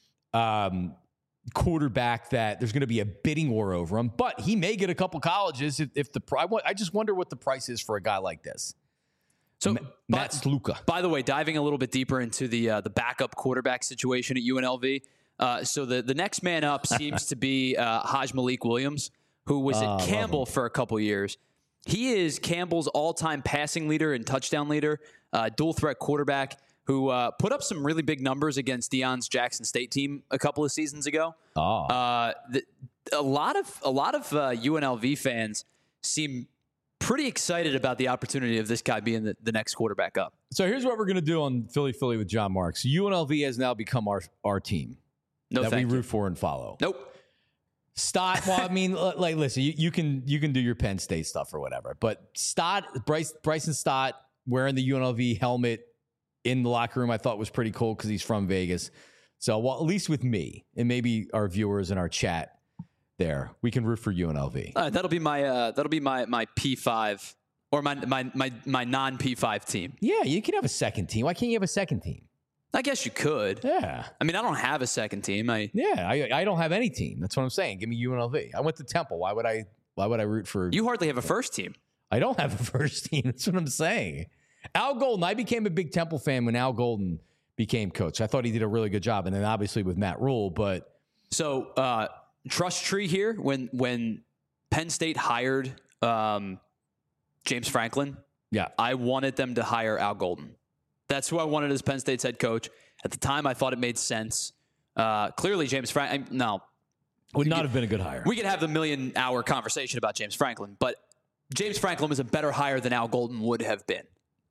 quarterback that there's going to be a bidding war over him. But he may get a couple colleges I just wonder what the price is for a guy like this. So Matt Sluka. By the way, diving a little bit deeper into the backup quarterback situation at UNLV. So the next man up seems to be Haj Malik Williams, who was at Campbell for a couple years. He is Campbell's all-time passing leader and touchdown leader, dual threat quarterback who put up some really big numbers against Deion's Jackson State team a couple of seasons ago. A lot of UNLV fans seem pretty excited about the opportunity of this guy being the next quarterback up. So here's what we're going to do on Philly with John Marks. UNLV has now become our team that we root for and follow. Nope. Stott, listen, you can do your Penn State stuff or whatever, but Bryson Stott wearing the UNLV helmet in the locker room, I thought was pretty cool because he's from Vegas. So, at least with me and maybe our viewers in our chat there, we can root for UNLV. That'll be my P5 or my non P5 team. Yeah, you can have a second team. Why can't you have a second team? I guess you could. Yeah. I don't have a second team. I don't have any team. That's what I'm saying. Give me UNLV. I went to Temple. Why would I root for? You hardly have a first team. I don't have a first team. That's what I'm saying. Al Golden. I became a big Temple fan when Al Golden became coach. I thought he did a really good job, and then obviously with Matt Rule. But so trust tree here. When Penn State hired James Franklin, yeah, I wanted them to hire Al Golden. That's who I wanted as Penn State's head coach. At the time, I thought it made sense. Clearly, James Franklin, would not have been a good hire. We could have the million-hour conversation about James Franklin, but James Franklin was a better hire than Al Golden would have been.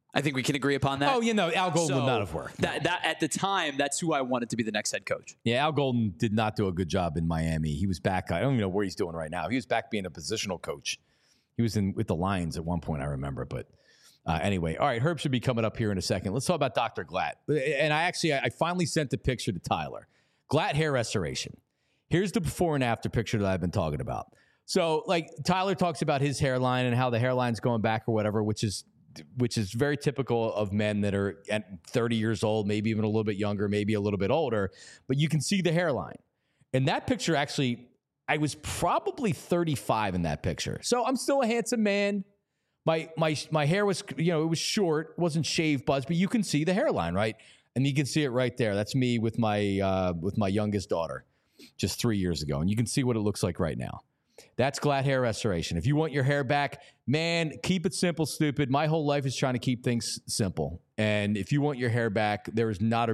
I think we can agree upon that. Oh, Al Golden would not have worked. That at the time, that's who I wanted to be the next head coach. Yeah, Al Golden did not do a good job in Miami. He was back. I don't even know what he's doing right now. He was back being a positional coach. He was with the Lions at one point, I remember. But anyway, all right, Herb should be coming up here in a second. Let's talk about Dr. Glatt. And I finally sent the picture to Tyler. Glatt hair restoration. Here's the before and after picture that I've been talking about. So, like, Tyler talks about his hairline and how the hairline's going back or whatever, which is very typical of men that are at 30 years old, maybe even a little bit younger, maybe a little bit older. But you can see the hairline. And that picture, actually, I was probably 35 in that picture. So I'm still a handsome man. My hair was, it was short, wasn't shaved buzz, but you can see the hairline, right? And you can see it right there. That's me with my youngest daughter just 3 years ago. And you can see what it looks like right now. That's Glatt hair restoration. If you want your hair back, man, keep it simple, stupid. My whole life is trying to keep things simple. And if you want your hair back, there is not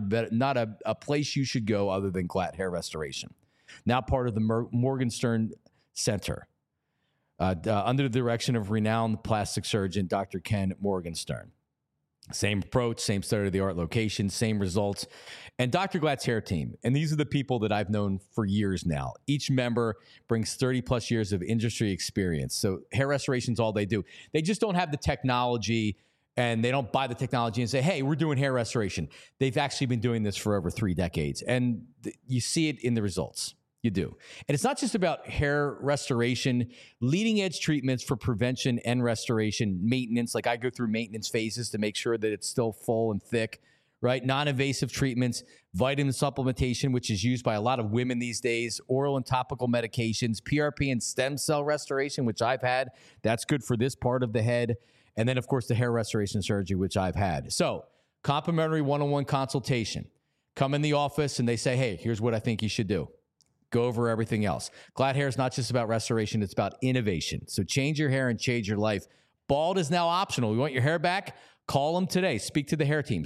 a place you should go other than Glatt hair restoration. Now part of the Morgenstern Center, under the direction of renowned plastic surgeon Dr. Ken Morgenstern. Same approach, same state-of-the-art location, same results. And Dr. Glatt's hair team, and these are the people that I've known for years now. Each member brings 30-plus years of industry experience. So hair restoration is all they do. They just don't have the technology, and they don't buy the technology and say, hey, we're doing hair restoration. They've actually been doing this for over 3 decades, and you see it in the results. You do. And it's not just about hair restoration, leading edge treatments for prevention and restoration, maintenance. Like I go through maintenance phases to make sure that it's still full and thick, right? Non-invasive treatments, vitamin supplementation, which is used by a lot of women these days, oral and topical medications, PRP and stem cell restoration, which I've had. That's good for this part of the head. And then, of course, the hair restoration surgery, which I've had. So complimentary one-on-one consultation. Come in the office and they say, hey, here's what I think you should do. Go over everything else. Glatt hair is not just about restoration, it's about innovation. So change your hair and change your life. Bald is now optional. You want your hair back? Call them today. Speak to the hair team.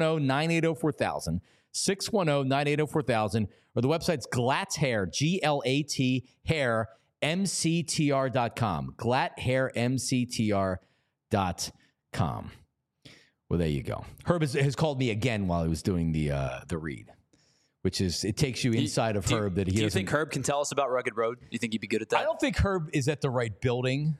610-980-4000. 610-980-4000. Or the website's Glatt's Hair, G-L-A-T hair, MCTR.com. GlattHairMCTR.com. Well, there you go. Herb has called me again while he was doing the read. Which is, it takes you inside of Herb that he doesn't. Do you think Herb can tell us about Rugged Road? Do you think he'd be good at that? I don't think Herb is at the right building.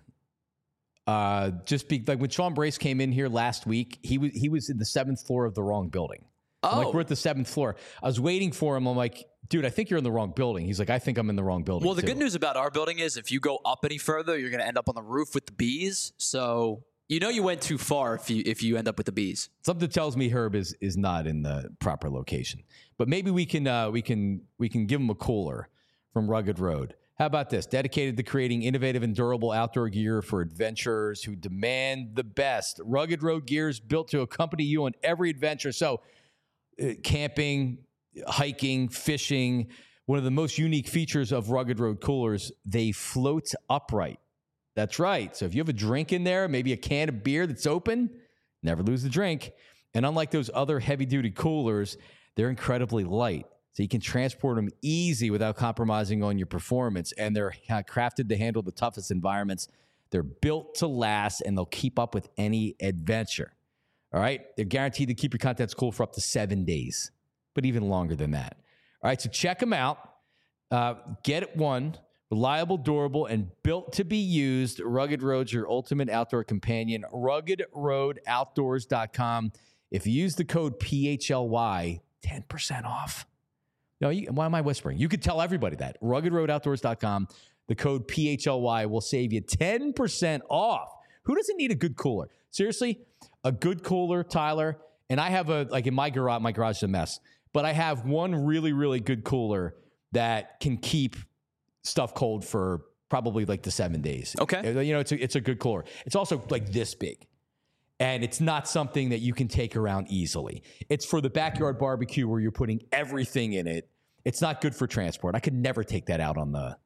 Like when Sean Brace came in here last week, he was in the 7th floor of the wrong building. Oh. Like we're at the 7th floor. I was waiting for him. I'm like, dude, I think you're in the wrong building. He's like, I think I'm in the wrong building. Well, the good news about our building is if you go up any further, you're going to end up on the roof with the bees. So you went too far if you end up with the bees. Something tells me Herb is not in the proper location. But maybe we can give him a cooler from Rugged Road. How about this? Dedicated to creating innovative and durable outdoor gear for adventurers who demand the best. Rugged Road gear is built to accompany you on every adventure. So camping, hiking, fishing. One of the most unique features of Rugged Road coolers, they float upright. That's right. So if you have a drink in there, maybe a can of beer that's open, never lose the drink. And unlike those other heavy-duty coolers, they're incredibly light. So you can transport them easy without compromising on your performance. And they're crafted to handle the toughest environments. They're built to last, and they'll keep up with any adventure. All right? They're guaranteed to keep your contents cool for up to 7 days, but even longer than that. All right, so check them out. Get one. Reliable, durable, and built to be used. Rugged Road's your ultimate outdoor companion. RuggedRoadOutdoors.com. If you use the code PHLY, 10% off. No, why am I whispering? You could tell everybody that. RuggedRoadOutdoors.com. The code PHLY will save you 10% off. Who doesn't need a good cooler? Seriously, a good cooler, Tyler. And I have in my garage is a mess. But I have one really, really good cooler that can keep stuff cold for probably like the 7 days. Okay. It's a good cooler. It's also like this big. And it's not something that you can take around easily. It's for the backyard barbecue where you're putting everything in it. It's not good for transport. I could never take that out on a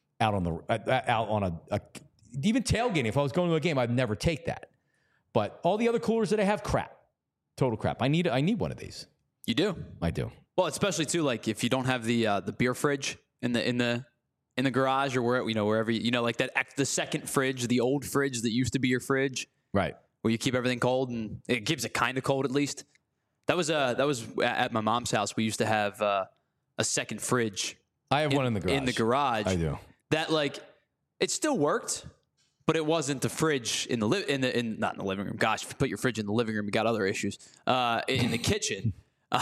even tailgating. If I was going to a game, I'd never take that. But all the other coolers that I have, crap, total crap. I need one of these. You do. I do. Well, especially too, like if you don't have the beer fridge in the garage or wherever like that the second fridge, the old fridge that used to be your fridge. Right. where you keep everything cold and it keeps it kind of cold at least. That was at my mom's house. We used to have a second fridge. I have one in the garage. In the garage, I do. That it still worked, but it wasn't the fridge not in the living room. Gosh, if you put your fridge in the living room, you got other issues. In the kitchen,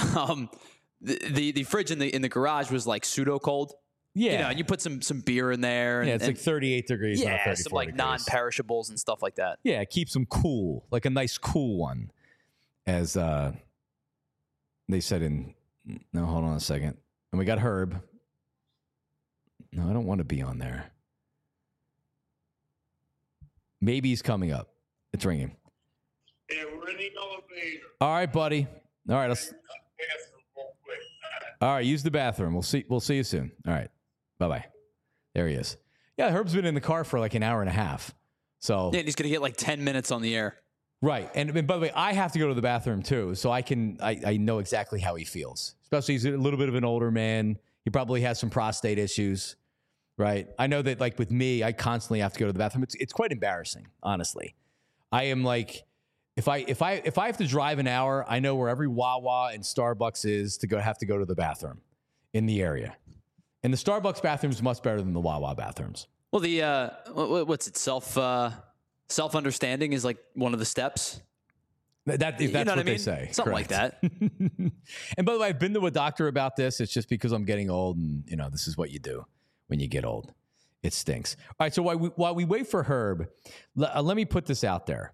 the fridge in the garage was like pseudo cold. Yeah, and you put some beer in there. Yeah, it's like 38 degrees. Yeah, not 34 some like degrees. non-perishables and stuff like that. Yeah, it keeps them cool, like a nice cool one. As they said no, hold on a second. And we got Herb. No, I don't want to be on there. Maybe he's coming up. It's ringing. Yeah, we're in the elevator. All right, buddy. All right, all right, use the bathroom. We'll see you soon. All right. Bye-bye. There he is. Yeah, Herb's been in the car for like an hour and a half. So yeah, and he's going to get like 10 minutes on the air. Right. And by the way, I have to go to the bathroom too, so I know exactly how he feels. Especially he's a little bit of an older man. He probably has some prostate issues, right? I know that like with me, I constantly have to go to the bathroom. It's quite embarrassing, honestly. I am like, if I have to drive an hour, I know where every Wawa and Starbucks is to have to go to the bathroom in the area. And the Starbucks bathroom is much better than the Wawa bathrooms. Well, the what's it? Self-understanding is like one of the steps. That's you know what I mean? they say. Something Correct. like that. And by the way, I've been to a doctor about this. It's just because I'm getting old, and this is what you do when you get old. It stinks. All right. So while we wait for Herb, let me put this out there.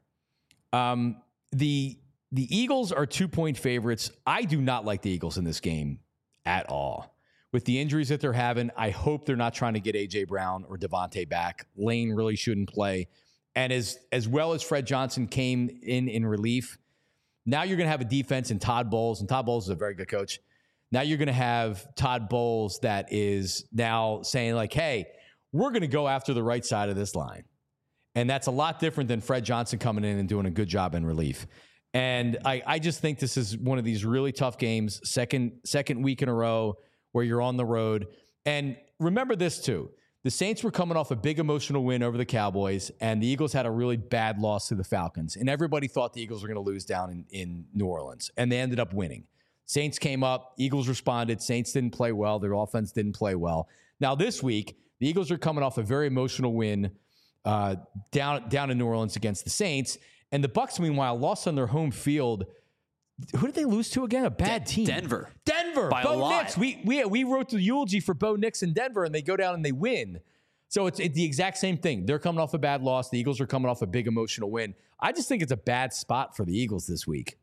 The Eagles are 2-point favorites. I do not like the Eagles in this game at all. With the injuries that they're having, I hope they're not trying to get A.J. Brown or Devontae back. Lane really shouldn't play. And as well as Fred Johnson came in relief, now you're going to have a defense in Todd Bowles, and Todd Bowles is a very good coach. Now you're going to have Todd Bowles that is now saying like, hey, we're going to go after the right side of this line. And that's a lot different than Fred Johnson coming in and doing a good job in relief. And I just think this is one of these really tough games, second week in a row where you're on the road. And remember this too. The Saints were coming off a big emotional win over the Cowboys, and the Eagles had a really bad loss to the Falcons. And everybody thought the Eagles were going to lose down in New Orleans, and they ended up winning. Saints came up, Eagles responded, Saints didn't play well, their offense didn't play well. Now this week, the Eagles are coming off a very emotional win down in New Orleans against the Saints, and the Bucs, meanwhile, lost on their home field. Who did they lose to again? A bad team. Denver. By Bo Nix. We wrote the eulogy for Bo Nix in Denver, and they go down and they win. So it's the exact same thing. They're coming off a bad loss. The Eagles are coming off a big emotional win. I just think it's a bad spot for the Eagles this week.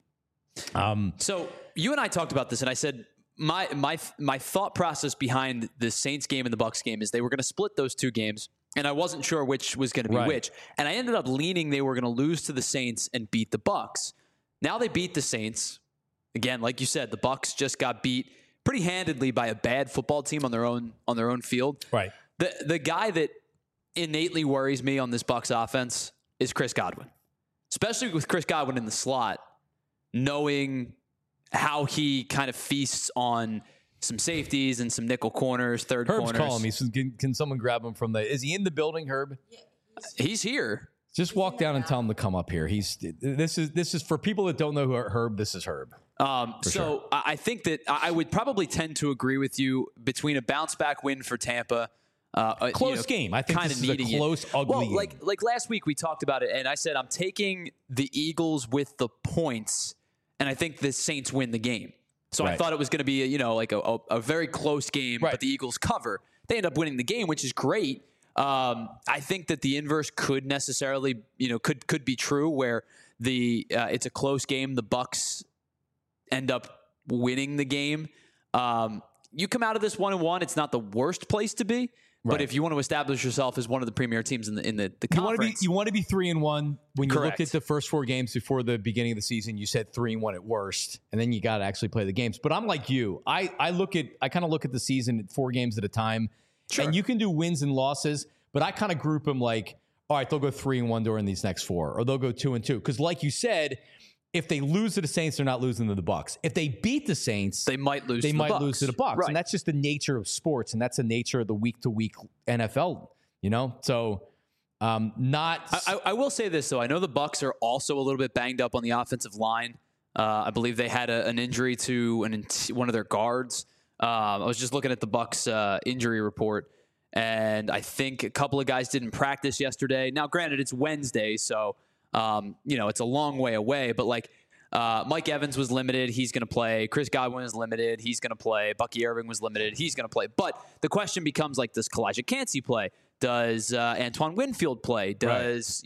So you and I talked about this, and I said my thought process behind the Saints game and the Bucs game is they were going to split those two games, and I wasn't sure which was going to be which. And I ended up leaning they were going to lose to the Saints and beat the Bucs. Now they beat the Saints. Again, like you said, the Bucs just got beat pretty handedly by a bad football team on their own field. Right. The guy that innately worries me on this Bucs offense is Chris Godwin. Especially with Chris Godwin in the slot, knowing how he kind of feasts on some safeties and some nickel corners, third corners. Herb's calling me. He says, can someone grab him from is he in the building, Herb? He's here. Just walk down and tell him to come up here. This is for people that don't know who Herb. This is Herb. Sure. I think that I would probably tend to agree with you between a bounce back win for Tampa. Close game. I think this is a close, ugly game. Like last week we talked about it, and I said I'm taking the Eagles with the points, and I think the Saints win the game. So I thought it was going to be a very close game, but the Eagles cover. They end up winning the game, which is great. I think that the inverse could necessarily, could be true, where it's a close game. The Bucs end up winning the game. You come out of this 1-1. It's not the worst place to be, but if you want to establish yourself as one of the premier teams in the conference, you want to be 3-1. When you Correct. looked at the first 4 games before the beginning of the season, you said 3-1 at worst, and then you got to actually play the games. But I'm like you. I kind of look at the season at 4 games at a time. Sure. And you can do wins and losses, but I kind of group them like, all right, they'll go 3-1 during these next 4, or they'll go 2-2. Because like you said, if they lose to the Saints, they're not losing to the Bucs. If they beat the Saints, they might lose to the Bucs. Right. And that's just the nature of sports, and that's the nature of the week-to-week NFL, So I will say this though. I know the Bucs are also a little bit banged up on the offensive line. I believe they had an injury to one of their guards. I was just looking at the Bucs injury report, and I think a couple of guys didn't practice yesterday. Now, granted, it's Wednesday, so it's a long way away. But like Mike Evans was limited, he's going to play. Chris Godwin is limited, he's going to play. Bucky Irving was limited, he's going to play. But the question becomes like, does Kalijah Kancey play? Does Antoine Winfield play? Does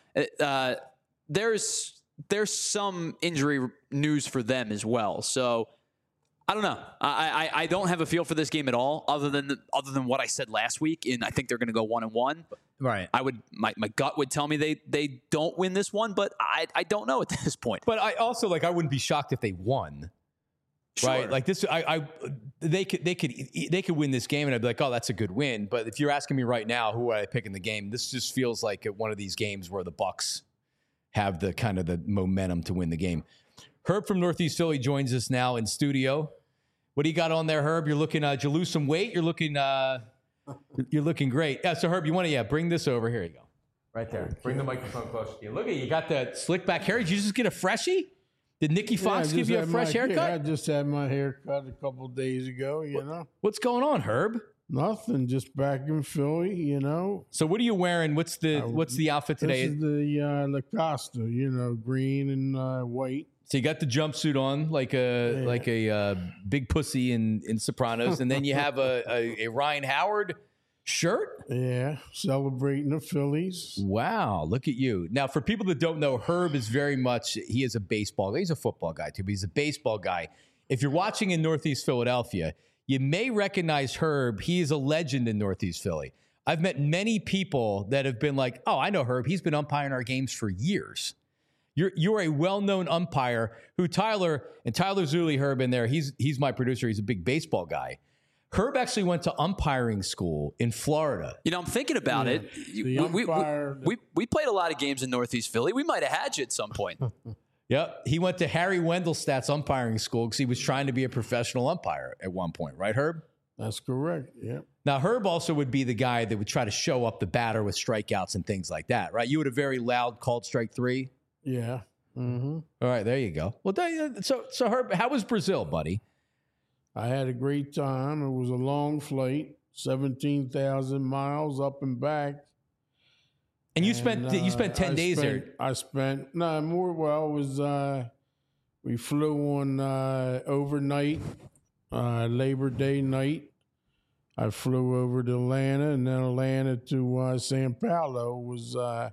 there's some injury news for them as well. So I don't know. I don't have a feel for this game at all, other than what I said last week. And I think they're going to go 1-1. Right. My gut would tell me they don't win this one, but I don't know at this point. But I also I wouldn't be shocked if they won. Sure. Right, like this, they could win this game, and I'd be like, oh, that's a good win. But if you're asking me right now, who would I pick in the game? This just feels like one of these games where the Bucs have the kind of the momentum to win the game. Herb from Northeast Philly joins us now in studio. What do you got on there, Herb? You're looking. Did you lose some weight? You're looking great. Yeah. So Herb, you want to bring this over? Here you go, right there. Bring the microphone closer to you. Look at you got the slick back hair. Did you just get a freshie? Did Nikki Fox give you a fresh haircut? I just had my hair cut a couple of days ago, What's going on, Herb? Nothing, just back in Philly, So what are you wearing? What's the outfit today? This is the La Costa, green and white. So you got the jumpsuit on like a big pussy in Sopranos, and then you have a Ryan Howard shirt? Yeah, celebrating the Phillies. Wow, look at you. Now, for people that don't know, Herb is he is a baseball guy. He's a football guy too, but he's a baseball guy. If you're watching in Northeast Philadelphia, you may recognize Herb. He is a legend in Northeast Philly. I've met many people that have been like, oh, I know Herb. He's been umpiring our games for years. You're a well-known umpire who Tyler Zulli, Herb in there, he's my producer. He's a big baseball guy. Herb actually went to umpiring school in Florida. I'm thinking about it. We played a lot of games in Northeast Philly. We might have had you at some point. Yep. He went to Harry Wendelstadt's umpiring school because he was trying to be a professional umpire at one point. Right, Herb? That's correct. Yep. Now, Herb also would be the guy that would try to show up the batter with strikeouts and things like that, right? You had a very loud called strike three. Yeah. Mm-hmm. All right, there you go. Well, so Herb, how was Brazil, buddy? I had a great time. It was a long flight, 17,000 miles up and back. And you spent 10 days there. I spent more. Well, it was we flew on overnight, Labor Day night. I flew over to Atlanta, and then Atlanta to Sao Paulo was about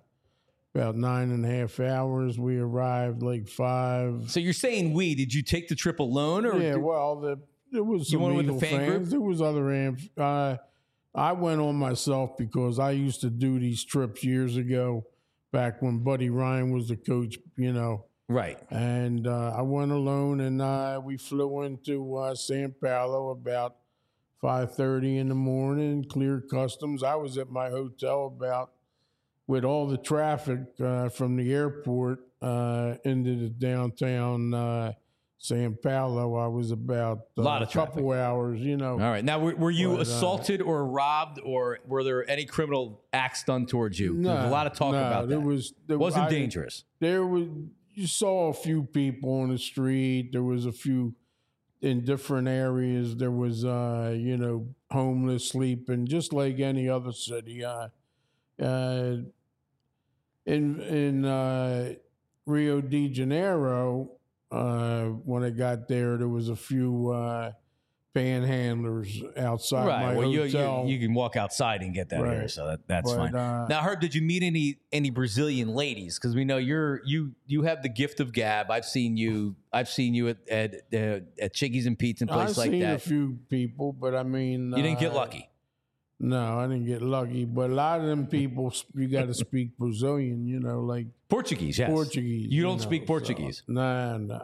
9.5 hours. We arrived like 5. So you're saying we? Did you take the trip alone, or there was some Eagle fans. There was other amps. I went on myself because I used to do these trips years ago, back when Buddy Ryan was the coach, Right. And I went alone, and we flew into Sao Paulo about 5:30 in the morning, cleared customs. I was at my hotel with all the traffic from the airport into the downtown Sao Paulo. I was about a couple hours, All right. Now, were you assaulted or robbed, or were there any criminal acts done towards you? No, There's a lot of talk about that. It wasn't dangerous. You saw a few people on the street. There was a few in different areas. There was, homeless sleeping, just like any other city. In Rio de Janeiro, when I got there was a few panhandlers outside my hotel. You can walk outside and get that here, so that's fine. Now, Herb, did you meet any Brazilian ladies? Because we know you have the gift of gab. I've seen you at Chickies and Pete's and places like that. I've seen a few people, but I mean, you didn't get lucky. No, I didn't get lucky. But a lot of them people, you got to speak Brazilian, like Portuguese. Yes, Portuguese. You don't speak Portuguese. So, no.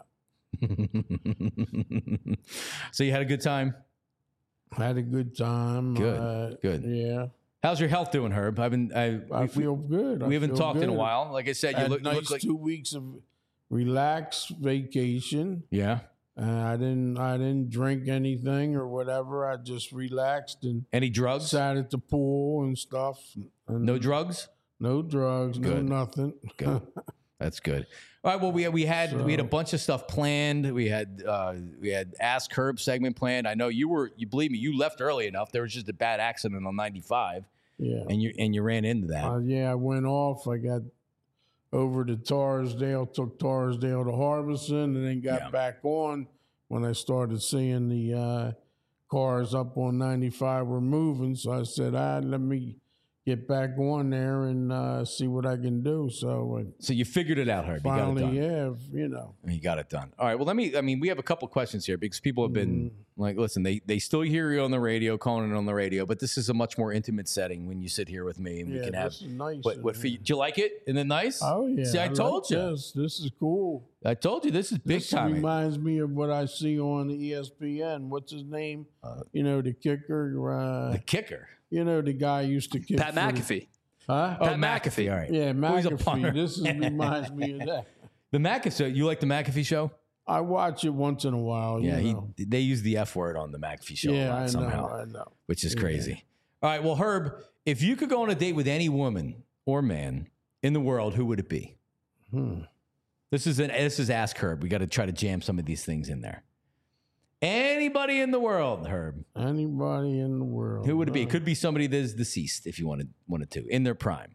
So you had a good time? Had a good time. Good. Yeah. How's your health doing, Herb? I feel good. We haven't talked in a while. Like I said, you look like 2 weeks of relaxed vacation. Yeah. I didn't drink anything or whatever. I just relaxed and any drugs? Sat at the pool and stuff. And no drugs? No drugs, Good. no nothing. Good. That's good. All right. Well, we had a bunch of stuff planned. We had Ask Herb segment planned. I know you believe me, you left early enough. There was just a bad accident on 95. Yeah. And you ran into that. I went off. I got over to Torresdale, took Torresdale to Harbison, and then got back on when I started seeing the cars up on 95 were moving. So I said, let me get back on there and see what I can do. So you figured it out, Herb. Finally, you got it done. You got it done. All right. Well, we have a couple questions here because people have been like, listen, they still hear you on the radio, calling it on the radio, but this is a much more intimate setting when you sit here with me and we can have. This is nice. What do you like it? Isn't it nice? Oh yeah. See, I told you. This is cool. I told you this is big time. This reminds me of what I see on ESPN. What's his name? The kicker. The kicker. The guy used to kick. Pat McAfee. Huh? Pat McAfee. All right. Yeah, Well, he's a punter. McAfee. Reminds me of that. The McAfee. So you like the McAfee show? I watch it once in a while. Yeah, they use the F word on the McAfee show a lot somehow. I know. Which is crazy. All right. Well, Herb, if you could go on a date with any woman or man in the world, who would it be? This is Ask Herb. We got to try to jam some of these things in there. Anybody in the world, Herb. Anybody in the world. Who would it be? It could be somebody that is deceased, if you wanted to, in their prime.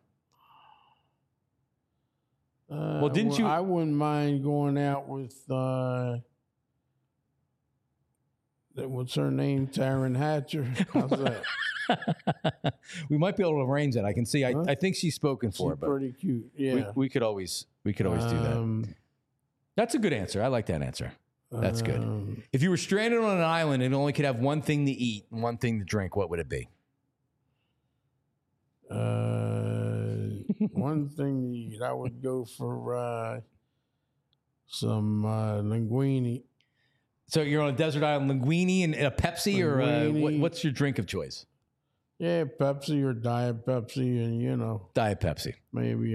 Well, didn't you? I wouldn't mind going out with what's her name? Taryn Hatcher. How's that? We might be able to arrange that. I can see. I think she's spoken for. She's but pretty cute. Yeah. We could always do that. That's a good answer. I like that answer. That's good. If you were stranded on an island and only could have one thing to eat and one thing to drink, what would it be? One thing to eat, I would go for some linguine. So you're on a desert island, linguine and a Pepsi, Linguine. or what's your drink of choice? Yeah, Pepsi or Diet Pepsi, and Diet Pepsi. maybe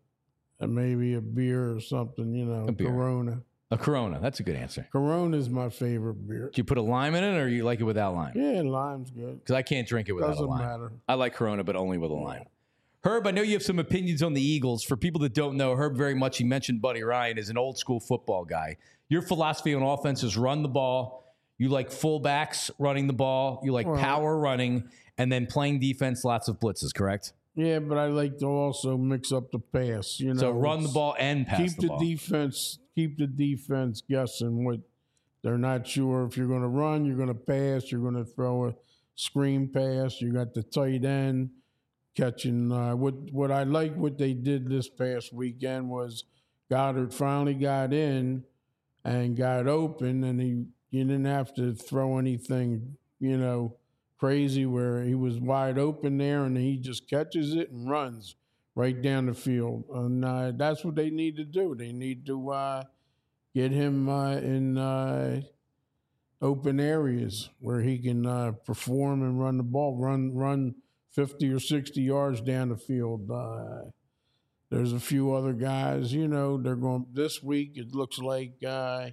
a beer or something. A beer. Corona. A Corona. That's a good answer. Corona is my favorite beer. Do you put a lime in it, or you like it without lime? Yeah, lime's good. Because I can't drink it without Doesn't a lime. matter. I like Corona, but only with a lime. Herb, I know you have some opinions on the Eagles. For people that don't know, Herb very much, he mentioned Buddy Ryan, is an old school football guy. Your philosophy on offense is run the ball. You like fullbacks running the ball. You like power running, and then playing defense, lots of blitzes, correct? Yeah, but I like to also mix up the pass. So run the ball and pass the ball. Keep the defense guessing what they're not sure if you're going to run, you're going to pass, you're going to throw a screen pass. You got the tight end catching. What I like what they did this past weekend was Goddard finally got in and got open, and you didn't have to throw anything, crazy where he was wide open there, and he just catches it and runs right down the field. And that's what they need to do. They need to get him in open areas where he can perform and run the ball, run 50 or 60 yards down the field. There's a few other guys, they're going this week. It looks like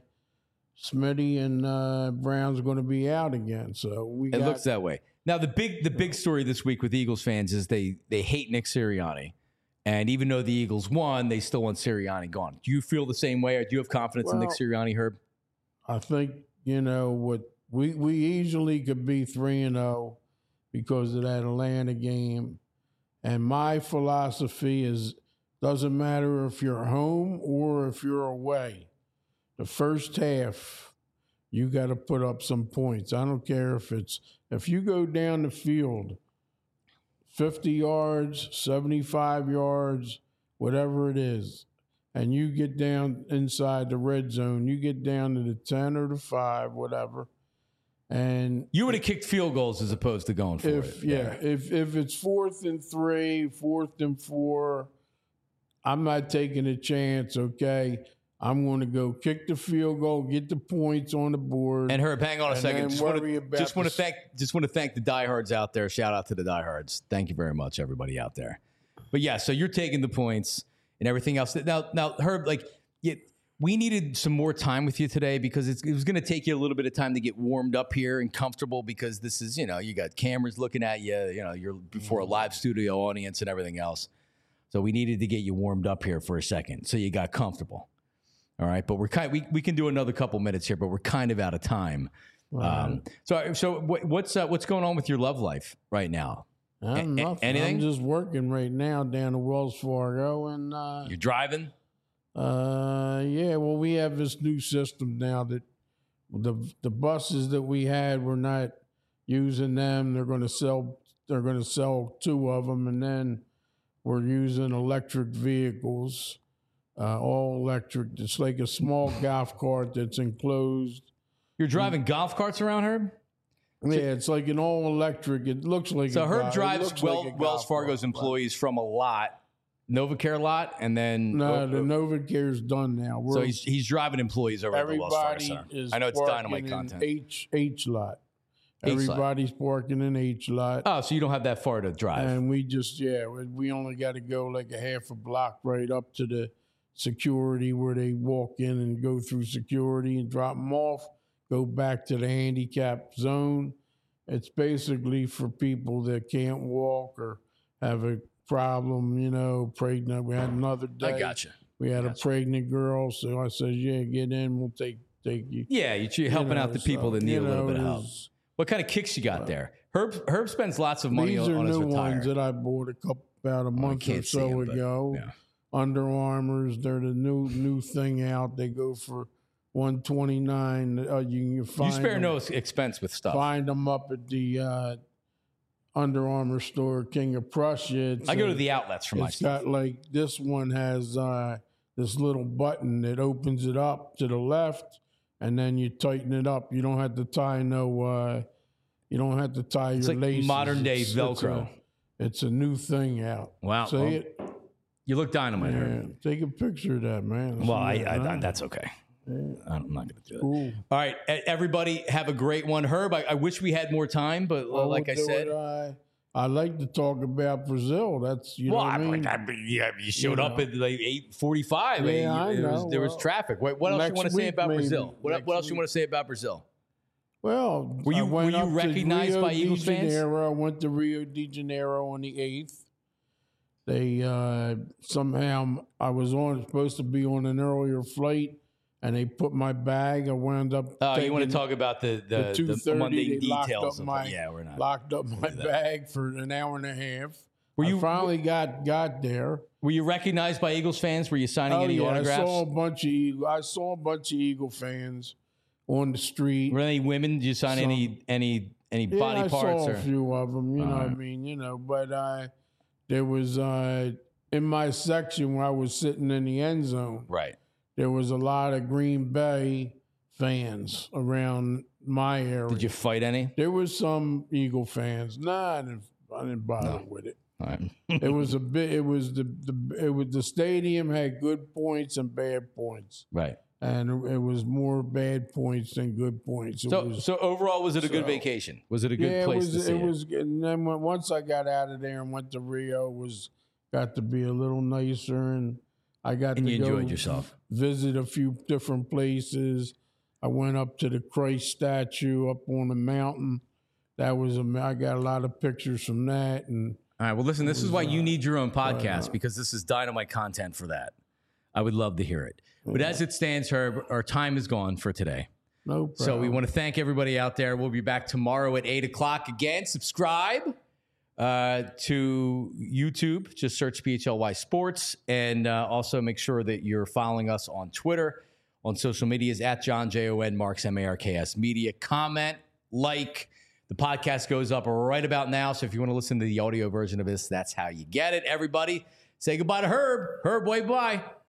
Smitty and Brown's going to be out again. So it looks that way. Now, the big story this week with Eagles fans is they hate Nick Sirianni. And even though the Eagles won, they still want Sirianni gone. Do you feel the same way, or do you have confidence in Nick Sirianni, Herb? I think, what we easily could be 3-0 because of that Atlanta game. And my philosophy is, doesn't matter if you're home or if you're away. The first half, you got to put up some points. I don't care if you go down the field 50 yards, 75 yards, whatever it is, and you get down inside the red zone, you get down to the 10 or the 5, whatever, and you would have kicked field goals as opposed to going for it. Yeah, if it's 4th and 3, 4th and 4, I'm not taking a chance, okay? I'm going to go kick the field goal, get the points on the board. And Herb, hang on a second. Just want to thank the diehards out there. Shout out to the diehards. Thank you very much, everybody out there. But yeah, so you're taking the points and everything else. Now, Herb, we needed some more time with you today because it was going to take you a little bit of time to get warmed up here and comfortable because this is, you got cameras looking at you. You're before a live studio audience and everything else. So we needed to get you warmed up here for a second so you got comfortable. All right, but we can do another couple minutes here, but we're kind of out of time. So what's going on with your love life right now? Nothing. Anything? I'm just working right now down at Wells Fargo, and you're driving. Yeah. Well, we have this new system now that the buses that we had, we're not using them. They're going to sell 2 of them, and then we're using electric vehicles, all electric. It's like a small golf cart that's enclosed. You're driving golf carts around, Herb? Yeah, it's like an all electric. It looks like so. Herb drives Wells Fargo's employees from a lot, NovaCare lot, and then the NovaCare's done now. So he's driving employees over at the Wells Fargo Center. I know it's Dynamite content. H lot. Everybody's parking in H lot. Oh, so you don't have that far to drive. And we only got to go like a half a block right up to the security where they walk in and go through security and drop them off. Go back to the handicap zone. It's basically for people that can't walk or have a problem, pregnant. We had another day. I gotcha. We had a pregnant girl, so I said, "Yeah, get in. We'll take you." Yeah, you're helping out the people that need a little bit of help. What kind of kicks you got there? Herb spends lots of money on his These are new attire. ones that I bought about a month or so ago. Yeah. Under Armours, they're the new thing out. They go for $129. You spare no expense with stuff. Find them up at the Under Armour store, King of Prussia. I go to the outlets for my stuff. It's got like this one has this little button that opens it up to the left, and then you tighten it up. You don't have to tie you don't have to tie your like laces. Modern day Velcro. It's a new thing out. Wow. See it? You look dynamite. Yeah. Take a picture of that, man. Well, I that's okay. I'm not going to do it. Cool. All right, everybody, have a great one. Herb, I wish we had more time, but like I said, I like to talk about Brazil. That's know what I mean. You showed up at like 8:45. Yeah, I know. There was traffic. What else you want to say about Brazil? What else you want to say about Brazil? Well, were you recognized by Eagles fans? I went to Rio de Janeiro on the 8th. They somehow I was supposed to be on an earlier flight. And they put my bag. I wound up. Oh, you want to talk about the mundane details? We're not. Locked up my bag for an hour and a half. I finally got there. Were you recognized by Eagles fans? Were you signing any autographs? I saw a bunch of Eagle fans on the street. Were there any women? Did you sign any body parts? I saw a few of them. You know what I mean? But there was in my section where I was sitting in the end zone. Right. There was a lot of Green Bay fans around my area. Did you fight any? There was some Eagle fans. Nah, I didn't bother with it. All right. It was a bit. It was the stadium had good points and bad points. Right. And it was more bad points than good points. So overall, was it a good vacation? Was it a good place to see it? It was. And then once I got out of there and went to Rio, got to be a little nicer, and I got to you enjoyed yourself. Visit a few different places. I went up to the Christ statue up on the mountain. I got a lot of pictures from that. And all right, well, listen, this is why you need your own podcast, because this is dynamite content for that. I would love to hear it. But as it stands, Herb, our time is gone for today. No problem. So we want to thank everybody out there. We'll be back tomorrow at 8 o'clock again. Subscribe to YouTube. Just search PHLY Sports. And also make sure that you're following us on Twitter, on social medias, at John Jon Marks Marks Media. Comment, like. The podcast goes up right about now. So if you want to listen to the audio version of this, that's how you get it. Everybody, say goodbye to Herb. Herb, wave bye.